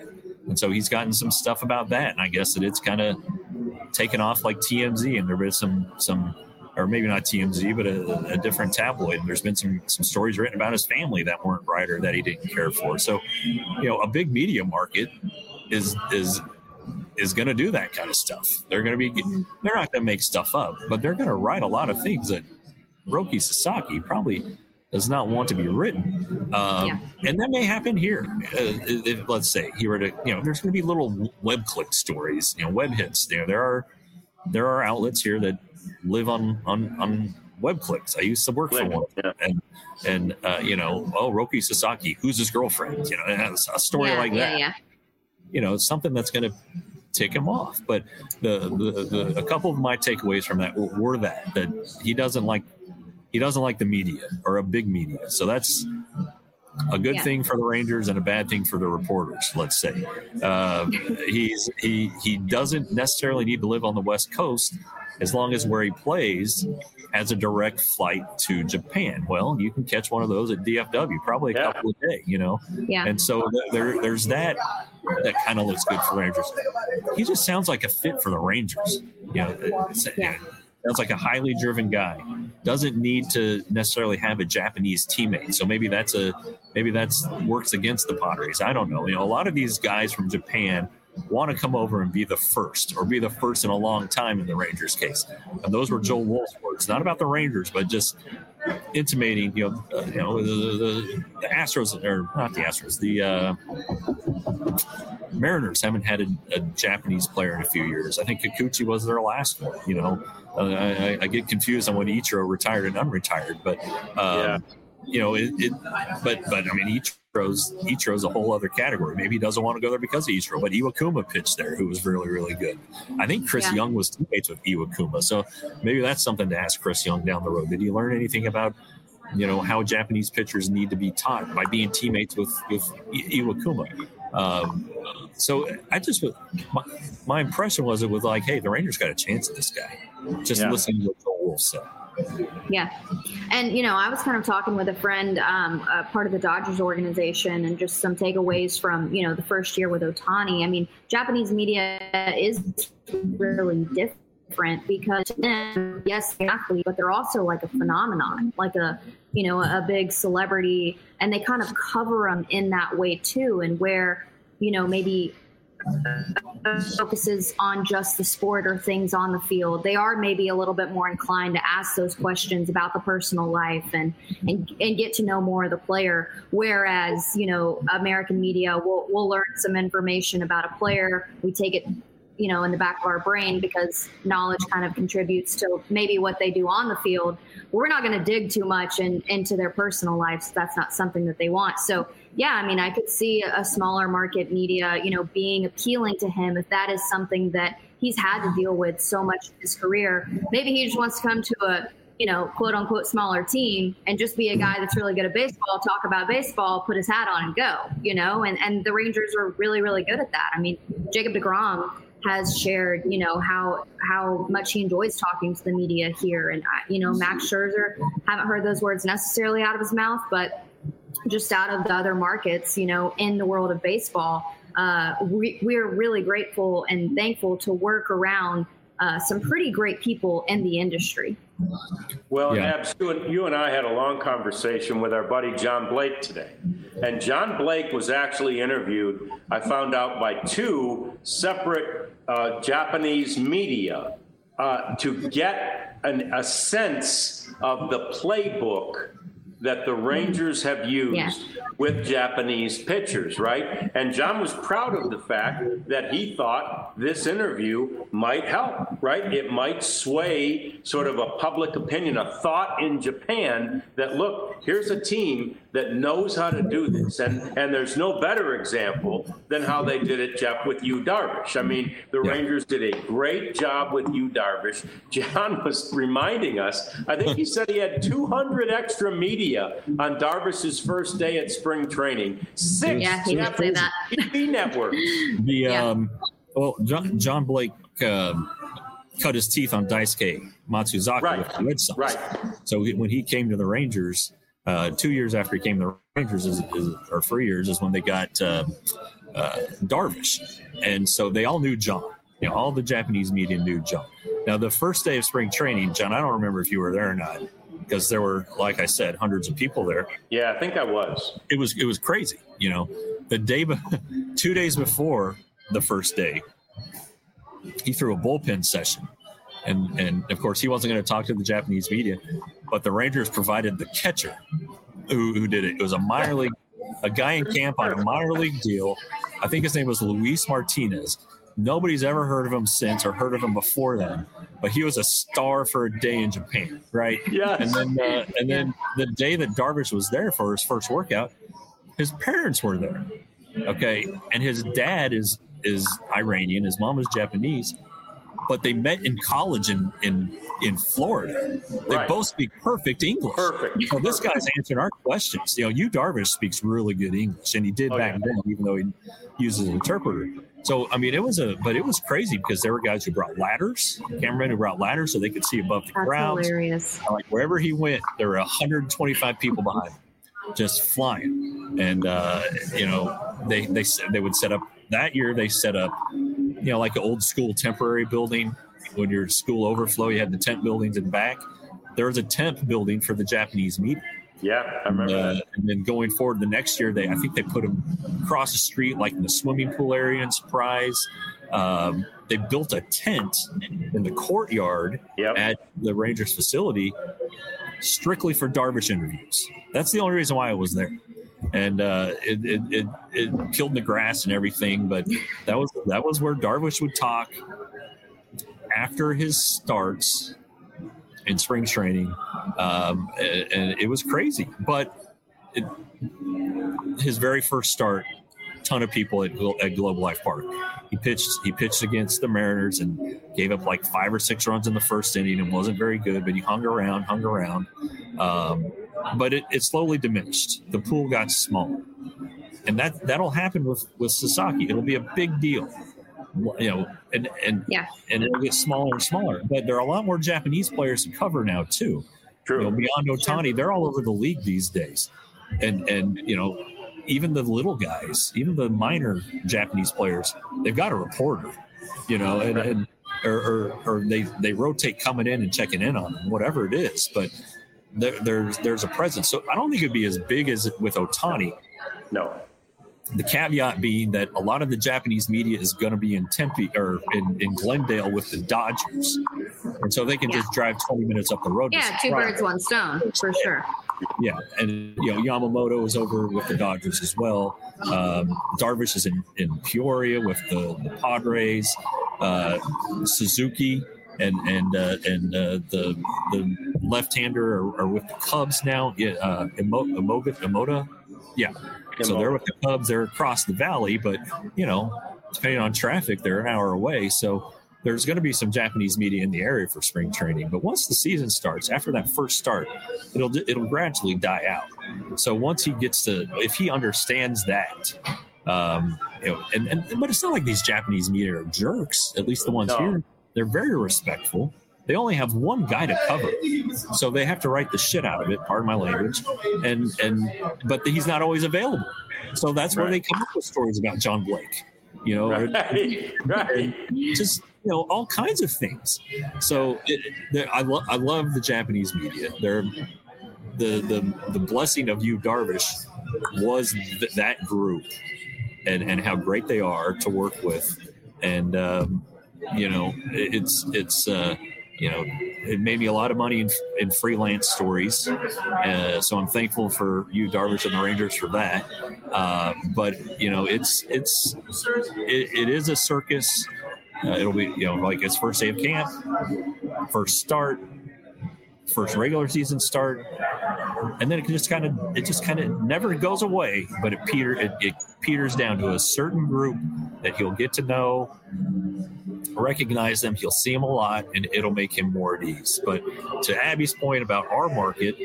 Speaker 2: And so he's gotten some stuff about that. And I guess that it's kind of taken off like T M Z, and there was some, some, or maybe not T M Z, but a, a different tabloid. And there's been some, some stories written about his family that weren't right or that he didn't care for. So, you know, a big media market is, is, is going to do that kind of stuff. They're going to be, they're not going to make stuff up, but they're going to write a lot of things that Roki Sasaki probably does not want to be written. Um, yeah. And that may happen here. Uh, if, let's say he were to, you know, there's going to be little web click stories, you know, web hits. You know, there are, there are outlets here that live on, on, on web clicks. I used to work for one. Yeah. And, and uh, you know, oh, Roki Sasaki, who's his girlfriend? You know, a story
Speaker 3: yeah,
Speaker 2: like
Speaker 3: yeah,
Speaker 2: that.
Speaker 3: Yeah.
Speaker 2: You know, something that's going to tick him off. But the, the, the, a couple of my takeaways from that were, were that, that he doesn't like, he doesn't like the media or a big media. So that's a good yeah. thing for the Rangers and a bad thing for the reporters, let's say. Uh, he's, he, he doesn't necessarily need to live on the West Coast as long as where he plays has a direct flight to Japan. Well, you can catch one of those at D F W, probably a yeah. couple a day, you know?
Speaker 3: Yeah.
Speaker 2: And so there, there's that, that kind of looks good for Rangers. He just sounds like a fit for the Rangers. You know, yeah. Sounds like a highly driven guy. Doesn't need to necessarily have a Japanese teammate. So maybe that's a, maybe that's works against the Padres. I don't know. You know, a lot of these guys from Japan want to come over and be the first or be the first in a long time in the Rangers case. And those were Joel Wolf's words, not about the Rangers, but just intimating, you know, uh, you know, the, the, the Astros, or not the Astros, the uh, Mariners haven't had a, a Japanese player in a few years. I think Kikuchi was their last one, you know. Uh, I, I get confused on when Ichiro retired and unretired, but, um, yeah. you know, it, it, but, but I mean, Ichiro's, Ichiro's a whole other category. Maybe he doesn't want to go there because of Ichiro, but Iwakuma pitched there, who was really, really good. I think Chris yeah. Young was teammates with Iwakuma. So maybe that's something to ask Chris Young down the road. Did he learn anything about, you know, how Japanese pitchers need to be taught by being teammates with, with Iwakuma? Um, so I just, my, my impression was it was like, hey, the Rangers got a chance at this guy. Just yeah. listening to what Joel Wolf said.
Speaker 3: Yeah. And, you know, I was kind of talking with a friend, um, uh, part of the Dodgers organization, and just some takeaways from, you know, the first year with Ohtani. I mean, Japanese media is really different because, then, yes, they're athlete, but they're also like a phenomenon, like a, you know, a big celebrity, and they kind of cover them in that way too. And where, you know, maybe focuses on just the sport or things on the field, they are maybe a little bit more inclined to ask those questions about the personal life and and, and get to know more of the player. Whereas, you know, American media will will learn some information about a player, we take it, you know, in the back of our brain because knowledge kind of contributes to maybe what they do on the field. We're not going to dig too much in, into their personal lives. That's not something that they want. So, yeah, I mean, I could see a smaller market media, you know, being appealing to him if that is something that he's had to deal with so much in his career. Maybe he just wants to come to a, you know, quote unquote smaller team and just be a guy that's really good at baseball, talk about baseball, put his hat on and go, you know, and, and the Rangers are really, really good at that. I mean, Jacob deGrom has shared, you know, how how much he enjoys talking to the media here. And, you know, Max Scherzer, haven't heard those words necessarily out of his mouth, but just out of the other markets, you know, in the world of baseball, uh, we, we're really grateful and thankful to work around uh, some pretty great people in the industry.
Speaker 1: Well,
Speaker 2: yeah.
Speaker 1: Abs, you and I had a long conversation with our buddy John Blake today. And John Blake was actually interviewed, I found out, by two separate uh, Japanese media uh, to get an, a sense of the playbook that the Rangers have used yeah. with Japanese pitchers, right? And John was proud of the fact that he thought this interview might help, right? It might sway sort of a public opinion, a thought in Japan that, look, here's a team that knows how to do this. And and there's no better example than how they did it, Jeff, with Yu Darvish. I mean, the yeah. Rangers did a great job with Yu Darvish. John was reminding us, I think he said he had two hundred extra media on Darvish's first day at spring training. Six
Speaker 3: yeah, he did say that.
Speaker 1: T V networks.
Speaker 2: The,
Speaker 3: yeah.
Speaker 2: um, well, John, John Blake um, cut his teeth on Daisuke Matsuzaka
Speaker 1: right.
Speaker 2: with the Red Sox.
Speaker 1: Right.
Speaker 2: So when he came to the Rangers, Uh, two years after he came to the Rangers, is, is, or three years, is when they got uh, uh, Darvish. And so they all knew John. You know, all the Japanese media knew John. Now, the first day of spring training, John, I don't remember if you were there or not, because there were, like I said, hundreds of people there.
Speaker 1: Yeah, I think I was.
Speaker 2: It was it was crazy. You know, the day, be- two days before the first day, he threw a bullpen session. And, and of course, he wasn't going to talk to the Japanese media, but the Rangers provided the catcher who, who did it. It was a minor league, a guy in camp on a minor league deal. I think his name was Luis Martinez. Nobody's ever heard of him since or heard of him before then, but he was a star for a day in Japan, right?
Speaker 1: Yes.
Speaker 2: And then, uh, and then the day that Darvish was there for his first workout, his parents were there. Okay, and his dad is is Iranian, his mom is Japanese, but they met in college in in in Florida. They
Speaker 1: Right.
Speaker 2: both speak perfect English.
Speaker 1: Perfect.
Speaker 2: So this guy's answering our questions. You know, Yu Darvish speaks really good English, and he did
Speaker 1: Oh,
Speaker 2: back
Speaker 1: yeah.
Speaker 2: then, even though he uses an interpreter. So, I mean, it was a, but it was crazy because there were guys who brought ladders, cameramen who brought ladders so they could see above the
Speaker 3: That's
Speaker 2: crowds.
Speaker 3: hilarious.
Speaker 2: Like wherever he went, there were one hundred twenty-five people behind him, just flying. And uh, you know, they they they would set up that year. They set up, you know, like an old school temporary building. When your school overflow, you had the tent buildings in the back. There was a tent building for the Japanese media.
Speaker 1: Yeah, I remember
Speaker 2: Uh,
Speaker 1: that.
Speaker 2: and then going forward, the next year, they I think they put them across the street, like in the swimming pool area in Surprise. Um, they built a tent in the courtyard
Speaker 1: Yep.
Speaker 2: at the Rangers facility strictly for Darvish interviews. That's the only reason why I was there. And uh, it, it, it, it killed the grass and everything, but that was that was where Darvish would talk after his starts in spring training, um, and, and it was crazy. But it, his very first start, ton of people at, at Globe Life Park. He pitched. He pitched against the Mariners and gave up like five or six runs in the first inning and wasn't very good. But he hung around, hung around. Um, but it, it slowly diminished. The pool got smaller, and that that'll happen with with Sasaki. It'll be a big deal. You know, and and
Speaker 3: Yeah.
Speaker 2: and it'll get smaller and smaller. But there are a lot more Japanese players to cover now too.
Speaker 1: True.
Speaker 2: You know, beyond Otani, they're all over the league these days, and and you know, even the little guys, even the minor Japanese players, they've got a reporter. You know, and, and or, or or they they rotate coming in and checking in on them, whatever it is. But there, there's there's a presence. So I don't think it'd be as big as with Otani.
Speaker 1: No.
Speaker 2: The caveat being that a lot of the Japanese media is going to be in Tempe or in, in Glendale with the Dodgers. And so they can
Speaker 3: Yeah.
Speaker 2: just drive twenty minutes up the road. to
Speaker 3: Yeah, two
Speaker 2: Surprise.
Speaker 3: birds, one stone, for sure.
Speaker 2: Yeah. And, you know, Yamamoto is over with the Dodgers as well. Um, Darvish is in, in Peoria with the, the Padres. Uh, Suzuki and and uh, and uh, the the left-hander are, are with the Cubs now. Yeah, uh, Emo, Emoga, Emoda. Yeah. So they're with the Cubs. They're across the valley, but you know, depending on traffic, they're an hour away. So there's going to be some Japanese media in the area for spring training. But once the season starts, after that first start, it'll it'll gradually die out. So once he gets to, if he understands that, um, you know, and, and but it's not like these Japanese media are jerks. At least the ones
Speaker 1: No.
Speaker 2: here, they're very respectful. They only have one guy to cover, so they have to write the shit out of it. Pardon my language, and and but he's not always available. So that's where
Speaker 1: Right.
Speaker 2: they come up with stories about John Blake. You know,
Speaker 1: Right. Right.
Speaker 2: just you know all kinds of things. So it, it, I love I love the Japanese media. They're the the the blessing of Yu Darvish was th- that group and and how great they are to work with, and um, you know it, it's it's. Uh, You know, it made me a lot of money in, in freelance stories. Uh, so I'm thankful for Yu Darvish and the Rangers for that. Uh, but, you know, it's, it's, it, it is a circus. Uh, it'll be, you know, like his first day of camp, first start, first regular season start. And then it just kind of, it just kind of never goes away, but it, peter, it, it peters down to a certain group that he'll get to know, recognize them, he'll see them a lot, and it'll make him more at ease. But to Abby's point about our market,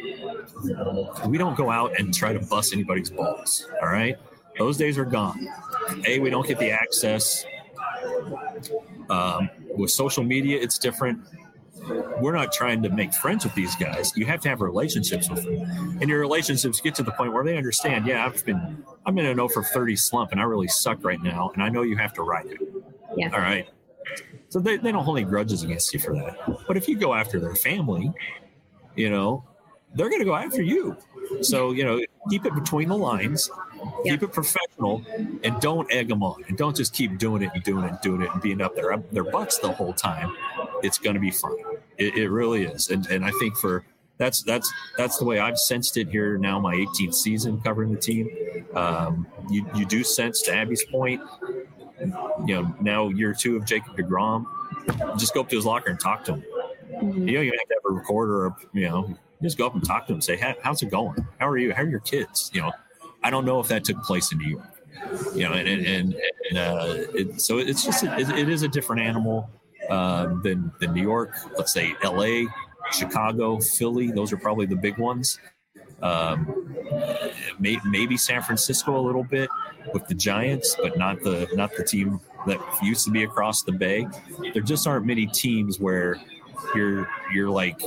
Speaker 2: we don't go out and try to bust anybody's balls, all right? Those days are gone. A, we don't get the access. Um, with social media, it's different. we're not trying to make friends with these guys. You have to have relationships with them, and your relationships get to the point where they understand. Yeah, I've been I'm in an oh for thirty slump, and I really suck right now, and I know you have to ride it.
Speaker 3: Yeah.
Speaker 2: All right. So they, they don't hold any grudges against you for that. But if you go after their family, you know, they're going to go after you. So, you know, keep it between the lines,
Speaker 3: Yeah.
Speaker 2: keep it professional, and don't egg them on. And don't just keep doing it and doing it and doing it and being up there, up their butts the whole time. It's going to be fun. It, it really is. And and I think for that's that's that's the way I've sensed it here now, my eighteenth season covering the team. Um, you, you do sense, to Abby's point, you know, now year two of Jacob deGrom, just go up to his locker and talk to him.
Speaker 3: Mm-hmm.
Speaker 2: You don't even have to have a recorder or, you know, just go up and talk to him. Say, How, how's it going? How are you? How are your kids? You know, I don't know if that took place in New York. You know, and and, and, and uh, it, so it's just a, it, it is a different animal uh, than than New York. Let's say L A, Chicago, Philly. Those are probably the big ones. Um, may, maybe San Francisco a little bit with the Giants, but not the not the team that used to be across the bay. There just aren't many teams where you're you're like,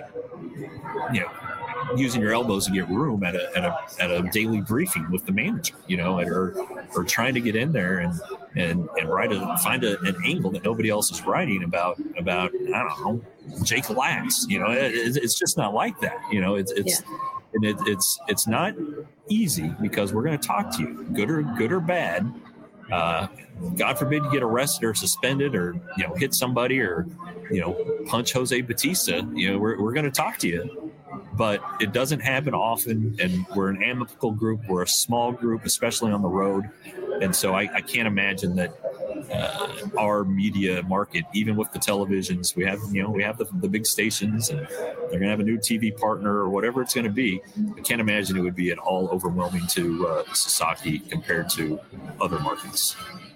Speaker 2: you know, using your elbows to get room at a at a at a daily briefing with the manager, you know, or or trying to get in there and and and write a find a, an angle that nobody else is writing about about I don't know, Jake Lax, you know, it, it's just not like that, you know. It's it's
Speaker 3: Yeah.
Speaker 2: and it, it's it's not easy because we're going to talk to you, good or good or bad. Uh, God forbid you get arrested or suspended or, you know, hit somebody or, you know, punch Jose Batista. You know, we're we're going to talk to you. But it doesn't happen often, and we're an amicable group. We're a small group, especially on the road. And so I, I can't imagine that uh, our media market, even with the televisions, we have, you know, we have the, the big stations, and they're going to have a new T V partner or whatever it's going to be. I can't imagine it would be at all overwhelming to uh, Sasaki compared to other markets.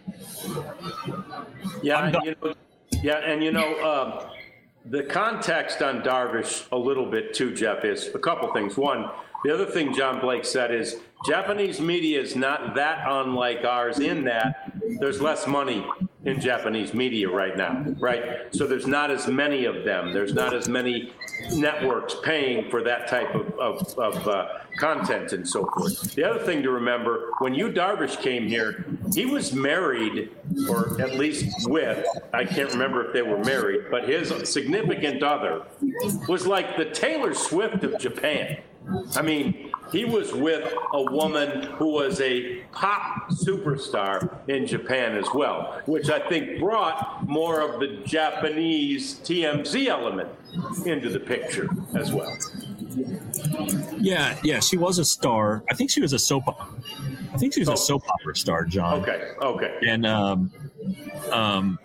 Speaker 1: Yeah, you know, yeah, and you know, um, the context on Darvish a little bit too, Jeff, is a couple things. One, the other thing John Blake said is Japanese media is not that unlike ours in that there's less money in Japanese media right now, right? So there's not as many of them. There's not as many networks paying for that type of, of, of uh, content and so forth. The other thing to remember, when Yu Darvish came here, he was married, or at least with, I can't remember if they were married, but his significant other was like the Taylor Swift of Japan. I mean, he was with a woman who was a pop superstar in Japan as well, which I think brought more of the Japanese T M Z element into the picture as well.
Speaker 2: Yeah, yeah, she was a star. I think she was a soap. I think she was
Speaker 1: Oh.
Speaker 2: a soap opera star, John.
Speaker 1: Okay, okay.
Speaker 2: And um, um,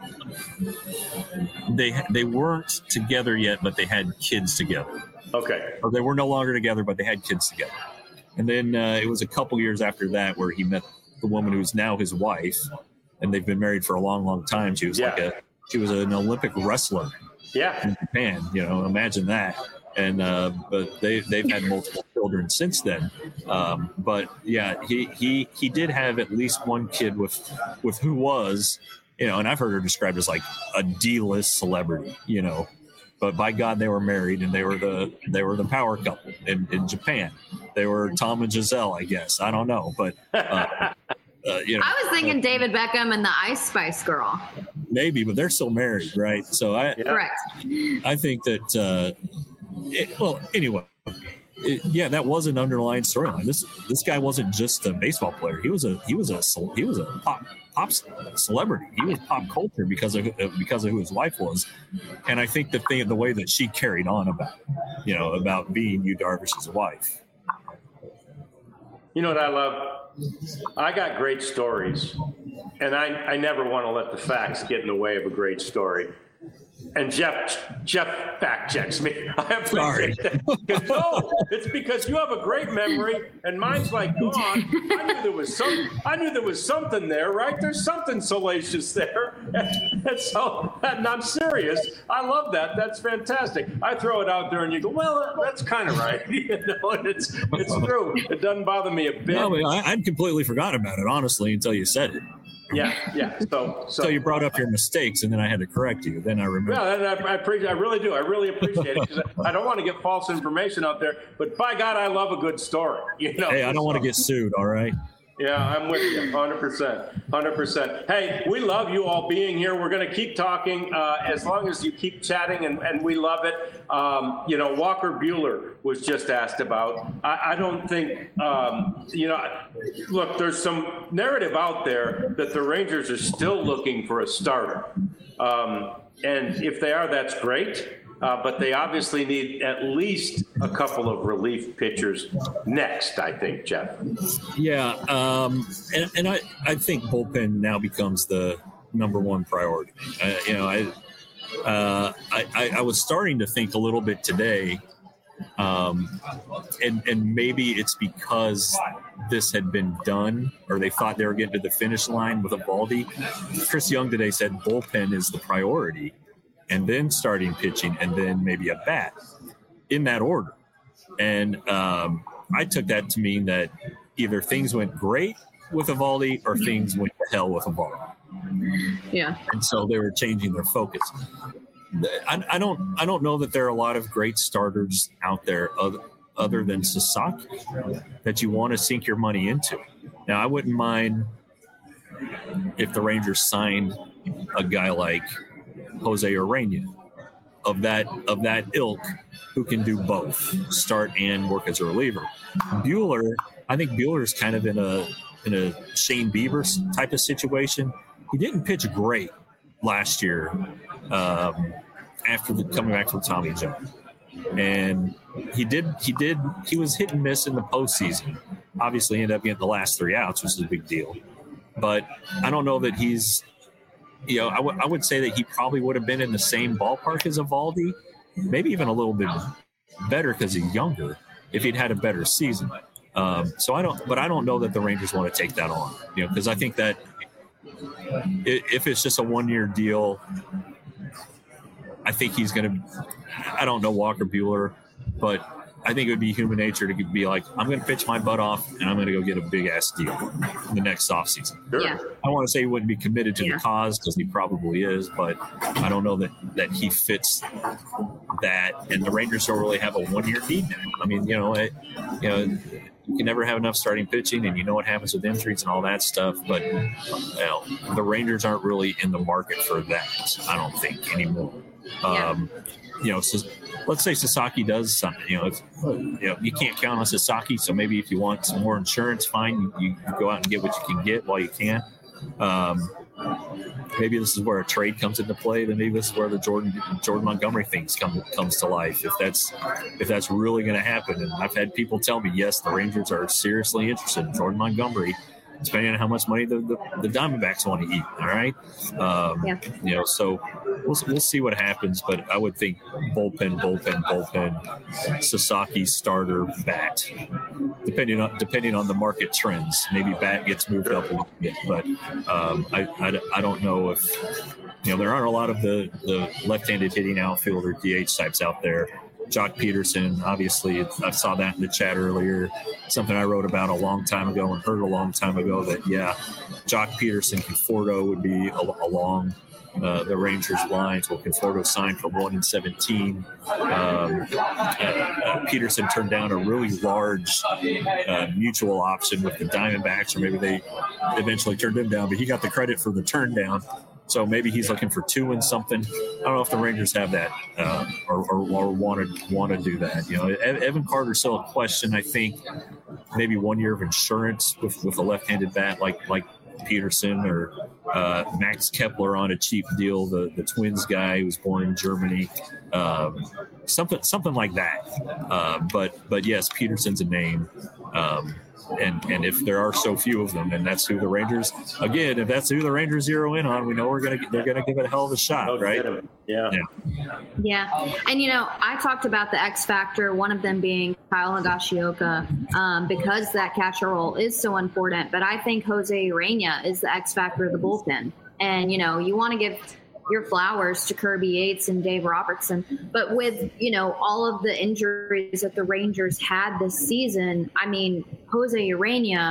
Speaker 2: they they weren't together yet, but they had kids together.
Speaker 1: Okay.
Speaker 2: Or they were no longer together, but they had kids together. And then uh, it was a couple years after that where he met the woman who's now his wife, and they've been married for a long, long time. She was
Speaker 1: Yeah.
Speaker 2: like a she was an Olympic wrestler
Speaker 1: Yeah.
Speaker 2: in Japan. You know, imagine that. And uh, but they they've had multiple children since then. Um, but yeah, he he he did have at least one kid with with who was, you know, and I've heard her described as like a D-list celebrity. You know. But by God, they were married, and they were the they were the power couple in, in Japan. They were Tom and Giselle, I guess. I don't know, but uh, uh, you know,
Speaker 3: I was thinking David Beckham and the Ice Spice Girl.
Speaker 2: maybe, but they're still married, right? So I
Speaker 1: Yeah.
Speaker 3: Correct.
Speaker 2: I think that uh, it, well, anyway, it, yeah, that was an underlying storyline. This this guy wasn't just a baseball player. He was a he was a ce- he was a pop pop celebrity. He was pop culture because of because of who his wife was, and I think the thing the way that she carried on about it, you know, about being Yu Darvish's wife.
Speaker 1: You know what I love? I got great stories, and I, I never want to let the facts get in the way of a great story. And Jeff Jeff fact checks me. I appreciate that. No, it's because you have a great memory, and mine's like gone. I knew there was some. I knew there was something there, right? There's something salacious there, and, and so and I'm serious. I love that. That's fantastic. I throw it out there, and you go, "Well, that's kind of right." You know, and it's it's true. It doesn't bother me a bit.
Speaker 2: No, I, I'd completely forgotten about it, honestly, until you said it.
Speaker 1: Yeah, yeah. So, so,
Speaker 2: So you brought up your mistakes, and then I had to correct you. Then I remember.
Speaker 1: Yeah, and I, I appreciate. I really do. I really appreciate it because I, I don't want to get false information out there. But by God, I love a good story. You know.
Speaker 2: Hey, I don't want to get sued. All right.
Speaker 1: Yeah, I'm with you, one hundred percent, one hundred percent. Hey, we love you all being here. We're going to keep talking uh, as long as you keep chatting, and, and we love it. Um, you know, Walker Buehler was just asked about. I, I don't think, um, you know, look, there's some narrative out there that the Rangers are still looking for a starter. Um, and if they are, that's great. Uh, but they obviously need at least a couple of relief pitchers next, I think, Jeff.
Speaker 2: Yeah, um, and, and I, I think bullpen now becomes the number one priority. Uh, you know, I, uh, I I was starting to think a little bit today, um, and and maybe it's because this had been done, or they thought they were getting to the finish line with Eovaldi. Chris Young today said bullpen is the priority, and then starting pitching, and then maybe a bat, in that order. And um, I took that to mean that either things went great with Eovaldi or things went to hell with Eovaldi.
Speaker 3: Yeah.
Speaker 2: And so they were changing their focus. I, I don't I don't know that there are a lot of great starters out there other, other than Sasaki that you want to sink your money into. Now, I wouldn't mind if the Rangers signed a guy like Jose Urena of that of that ilk who can do both, start and work as a reliever. Buehler, I think Buehler is kind of in a in a Shane Bieber type of situation. He didn't pitch great last year um, after the, coming back from Tommy John, and he did he did he was hit and miss in the postseason. Obviously, ended up getting the last three outs, which is a big deal. But I don't know that he's. You know, I, w- I would say that he probably would have been in the same ballpark as Eovaldi, maybe even a little bit better because he's younger, if he'd had a better season. Um, so I don't, but I don't know that the Rangers want to take that on, you know, because I think that if it's just a one-year deal, I think he's going to, I don't know Walker Buehler, but I think it would be human nature to be like, I'm going to pitch my butt off and I'm going to go get a big ass deal in the next offseason.
Speaker 3: Yeah.
Speaker 2: I want to say he wouldn't be committed to
Speaker 3: yeah.
Speaker 2: the cause because he probably is, but I don't know that, that he fits that. And the Rangers don't really have a one-year need now. I mean, you know, it, you know, you can never have enough starting pitching, and you know what happens with injuries and all that stuff. But you know, the Rangers aren't really in the market for that, I don't think, anymore.
Speaker 3: Yeah.
Speaker 2: Um, you know, so let's say Sasaki does something. You know, if, you know, you can't count on Sasaki, so maybe if you want some more insurance, fine, you, you go out and get what you can get while you can. Um, maybe this is where a trade comes into play. Then maybe this is where the Jordan Jordan Montgomery things come comes to life. If that's if that's really going to happen, and I've had people tell me, yes, the Rangers are seriously interested in Jordan Montgomery, depending on how much money the, the, the Diamondbacks want to eat. All right, um, yeah. You know, so we'll we'll see what happens. But I would think bullpen, bullpen, bullpen, Sasaki starter, bat, depending on depending on the market trends. Maybe bat gets moved up a little bit, but um, I, I I don't know if you know there aren't a lot of the the left-handed hitting outfielder D H types out there. Jock Peterson, obviously, I saw that in the chat earlier, something I wrote about a long time ago and heard a long time ago that, yeah, Jock Peterson, Conforto would be along uh, the Rangers' lines. Well, Conforto signed for one and seventeen. Um, uh, uh, Peterson turned down a really large uh, mutual option with the Diamondbacks, or maybe they eventually turned him down, but he got the credit for the turn down. So maybe he's looking for two and something. I don't know if the Rangers have that uh, or, or, or want to want to do that. You know, Evan Carter's still a question. I think maybe one year of insurance with, with a left-handed bat like like Peterson, or uh, Max Kepler on a cheap deal, the the Twins guy who was born in Germany, um, something something like that. Uh, but but yes, Peterson's a name. Um, And and if there are so few of them, and that's who the Rangers, again, if that's who the Rangers zero in on, we know we're gonna they're gonna give it a hell of a shot, right?
Speaker 1: Yeah.
Speaker 2: yeah.
Speaker 3: Yeah. And, you know, I talked about the X factor, one of them being Kyle Higashioka, um, because that catcher role is so important. But I think Jose Urena is the X factor of the bullpen. And, you know, you want to give your flowers to Kirby Yates and Dave Robertson. But with, you know, all of the injuries that the Rangers had this season, I mean, Jose Urena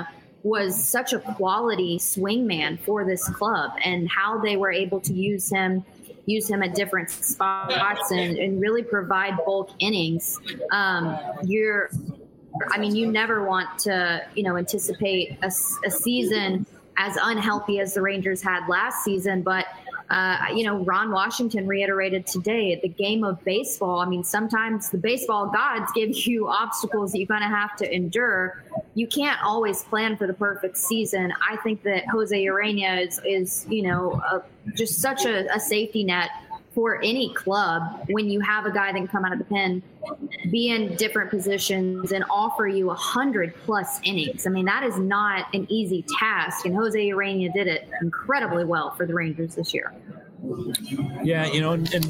Speaker 3: was such a quality swingman for this club, and how they were able to use him use him at different spots and, and really provide bulk innings. Um, you're, I mean, you never want to, you know, anticipate a, a season as unhealthy as the Rangers had last season, but Uh, you know, Ron Washington reiterated today, the game of baseball. I mean, sometimes the baseball gods give you obstacles that you kind of have to endure. You can't always plan for the perfect season. I think that Jose Urena is, is you know, a, just such a, a safety net for any club when you have a guy that can come out of the pen, be in different positions, and offer you a hundred plus innings. I mean, that is not an easy task, and Jose Urena did it incredibly well for the Rangers this year.
Speaker 2: Yeah, you know, and, and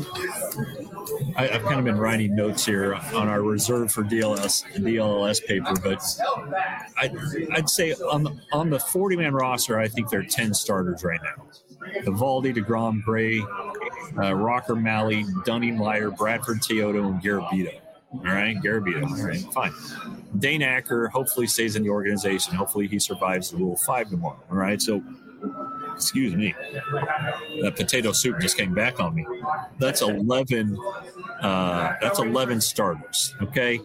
Speaker 2: I, I've kind of been writing notes here on our reserve for D L S D L L S paper, but I, I'd say on the, on the forty-man roster, I think there are ten starters right now. Eovaldi, DeGrom, Gray, uh, Rocker, Malley, Dunning, Leiter, Bradford, Teodo, and Garabito. All right, Garabito. All right, fine. Dane Acker hopefully stays in the organization. Hopefully he survives the Rule five tomorrow. All right, so excuse me, that potato soup just came back on me. That's eleven. Uh, that's eleven starters. Okay,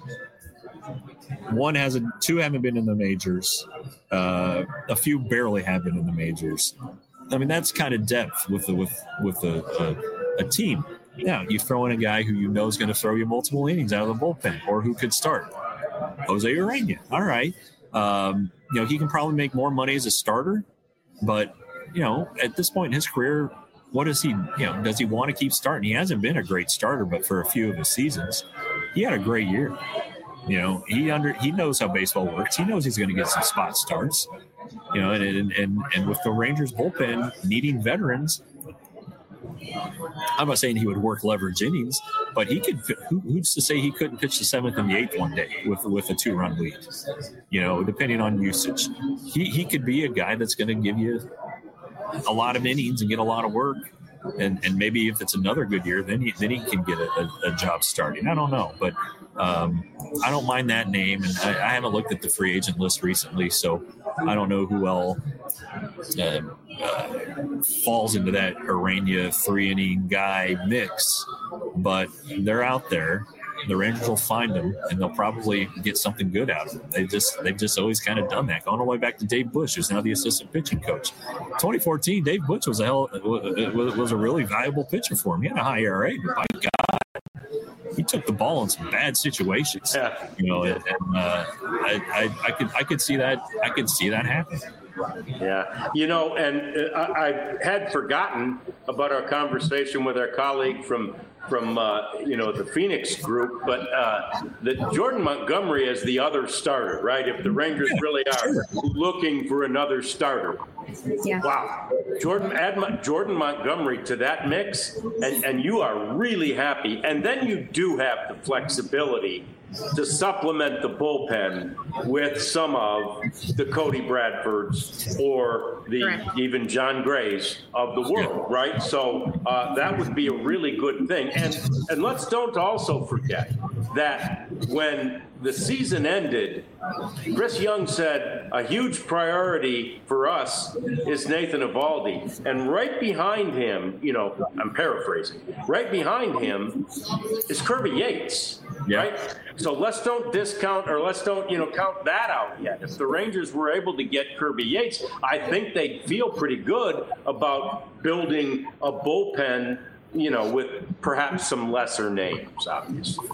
Speaker 2: one hasn't, two haven't been in the majors. Uh, a few barely have been in the majors. I mean, that's kind of depth with the, with with a, a, a team. Yeah, you throw in a guy who you know is going to throw you multiple innings out of the bullpen, or who could start. Jose Urena. All right, um, you know, he can probably make more money as a starter, but you know, at this point in his career, what does he? You know, does he want to keep starting? He hasn't been a great starter, but for a few of his seasons, he had a great year. You know, he under he knows how baseball works. He knows he's going to get some spot starts. You know, and, and and and with the Rangers bullpen needing veterans, I'm not saying he would work leverage innings, but he could. Who, who's to say he couldn't pitch the seventh and the eighth one day with with a two run lead? You know, depending on usage, he he could be a guy that's going to give you a lot of innings and get a lot of work. And and maybe if it's another good year, then he then he can get a, a, a job starting. I don't know, but um, I don't mind that name. And I, I haven't looked at the free agent list recently, so I don't know who else uh, uh, falls into that Urena three inning guy mix. But they're out there. The Rangers will find them, and they'll probably get something good out of them. They just they've just always kind of done that. Going all the way back to Dave Bush, who's now the assistant pitching coach. twenty fourteen, Dave Bush was a hell was a really valuable pitcher for him. He had a high E R A, but by God, he took the ball in some bad situations.
Speaker 1: Yeah.
Speaker 2: You know, and uh, I, I I could I could see that I could see that happen.
Speaker 1: Yeah, you know, and I, I had forgotten about our conversation with our colleague from from uh, you know the Phoenix group, but uh, that Jordan Montgomery is the other starter, right? If the Rangers
Speaker 2: yeah,
Speaker 1: really are
Speaker 2: sure.
Speaker 1: looking for another starter,
Speaker 3: Yeah.
Speaker 1: wow, Jordan add Mon- Jordan Montgomery to that mix, and and you are really happy, and then you do have the flexibility to supplement the bullpen with some of the Cody Bradfords or the
Speaker 3: Correct.
Speaker 1: even John Grays of the world, right? So uh, that would be a really good thing. And and let's don't also forget that when the season ended, Chris Young said a huge priority for us is Nathan Eovaldi. And right behind him, you know, I'm paraphrasing, right behind him is Kirby Yates,
Speaker 2: Yeah.
Speaker 1: right? So let's don't discount or let's don't, you know, count that out yet. If the Rangers were able to get Kirby Yates, I think they'd feel pretty good about building a bullpen, you know, with perhaps some lesser names, obviously.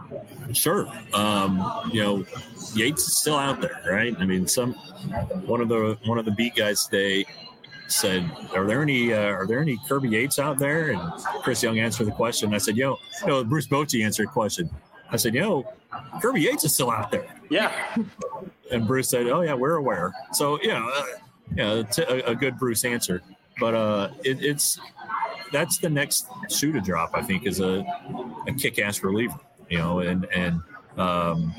Speaker 2: Sure. Um, you know, Yates is still out there, right? I mean, some one of the one of the beat guys today said, "Are there any uh, are there any Kirby Yates out there?" And Chris Young answered the question. I said, "You know, no." Bruce Bochy answered the question. I said, "You know, Kirby Yates is still out there."
Speaker 1: Yeah.
Speaker 2: And Bruce said, "Oh yeah, we're aware." So you know, uh, yeah, it's a, a good Bruce answer. But uh, it, it's that's the next shoe to drop. I think is a a kick-ass reliever. You know, and and um,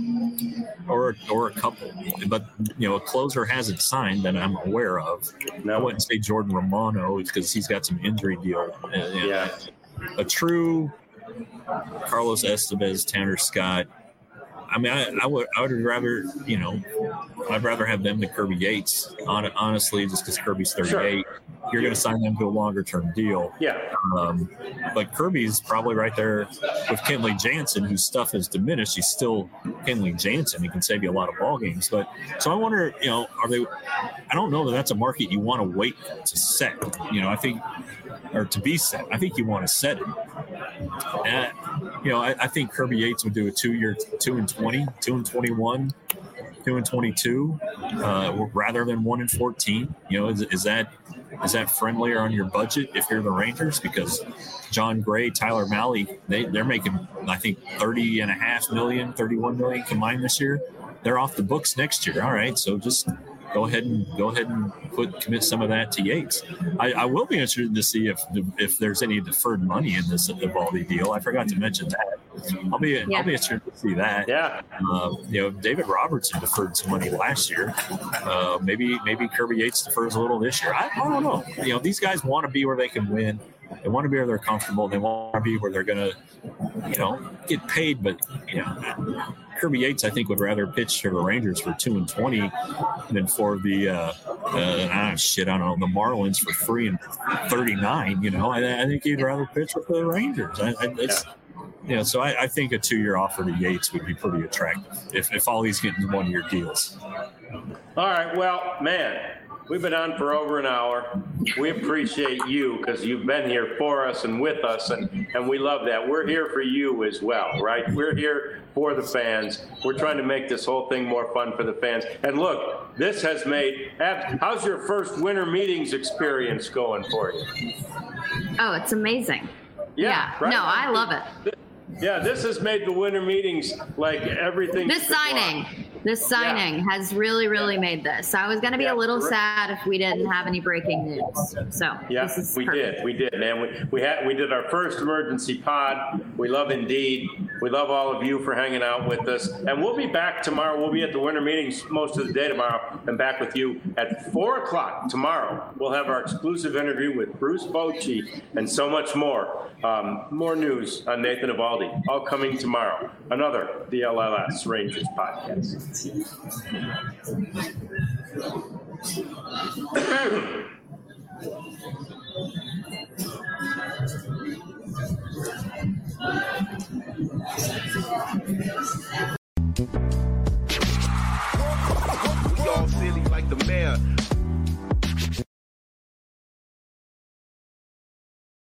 Speaker 2: or or a couple, but you know, a closer hasn't signed that I'm aware of.
Speaker 1: No.
Speaker 2: I wouldn't say Jordan Romano because he's got some injury deal. And, and
Speaker 1: Yeah.
Speaker 2: a true Carlos Estevez, Tanner Scott. I mean, I, I would I would rather, you know, I'd rather have them than Kirby Yates, hon- honestly, just because Kirby's thirty-eight. Sure. You're going to sign them to a longer term deal.
Speaker 1: Yeah.
Speaker 2: Um, but Kirby's probably right there with Kenley Jansen, whose stuff has diminished. He's still Kenley Jansen. He can save you a lot of ball games. But so I wonder, you know, are they? I don't know that that's a market you want to wait to set. You know, I think, or to be set. I think you want to set it. And, you know, I, I think Kirby Yates would do a two-year, two and twenty, two and twenty-one, two and twenty-two, uh, rather than one and fourteen. You know, is, is that is that friendlier on your budget if you're the Rangers? Because John Gray, Tyler Malley, they they're making I think thirty and a half million, thirty-one million combined this year. They're off the books next year. All right, so just go ahead and go ahead and put commit some of that to Yates. I, I will be interested to see if if there's any deferred money in this Eovaldi deal. I forgot to mention that. I'll be yeah. I'll be interested to see that.
Speaker 1: Yeah.
Speaker 2: Uh, you know, David Robertson deferred some money last year. Uh, maybe maybe Kirby Yates defers a little this year. I, I don't know. You know, these guys want to be where they can win. They want to be where they're comfortable. They want to be where they're going to, you know, get paid. But, you know, Kirby Yates, I think, would rather pitch to the Rangers for two and twenty than for the, uh, uh, ah, shit, I don't know, the Marlins for three and thirty-nine. You know, I, I think he'd rather pitch with the Rangers. I, I, it's, you know, so I, I think a two-year offer to Yates would be pretty attractive if, if all he's getting one-year deals.
Speaker 1: All right. Well, man. We've been on for over an hour. We appreciate you because you've been here for us and with us, and, and we love that. We're here for you as well, right? We're here for the fans. We're trying to make this whole thing more fun for the fans. And look, this has made – how's your first winter meetings experience going for you?
Speaker 3: Oh, it's amazing.
Speaker 1: Yeah,
Speaker 3: yeah.
Speaker 1: Right?
Speaker 3: No, I love it.
Speaker 1: Yeah, this has made the winter meetings like everything.
Speaker 3: This signing. Want. This signing yeah. has really, really yeah. made this. I was going to be yeah, a little correct. sad if we didn't have any breaking news. So
Speaker 1: yeah,
Speaker 3: this is
Speaker 1: we
Speaker 3: perfect.
Speaker 1: did, we did, man. We we had we did our first emergency pod. We love Indeed. We love all of you for hanging out with us, and we'll be back tomorrow. We'll be at the winter meetings most of the day tomorrow, and back with you at four o'clock tomorrow. We'll have our exclusive interview with Bruce Bochy and so much more. Um, more news on Nathan Eovaldi, all coming tomorrow. Another D L L S Rangers podcast.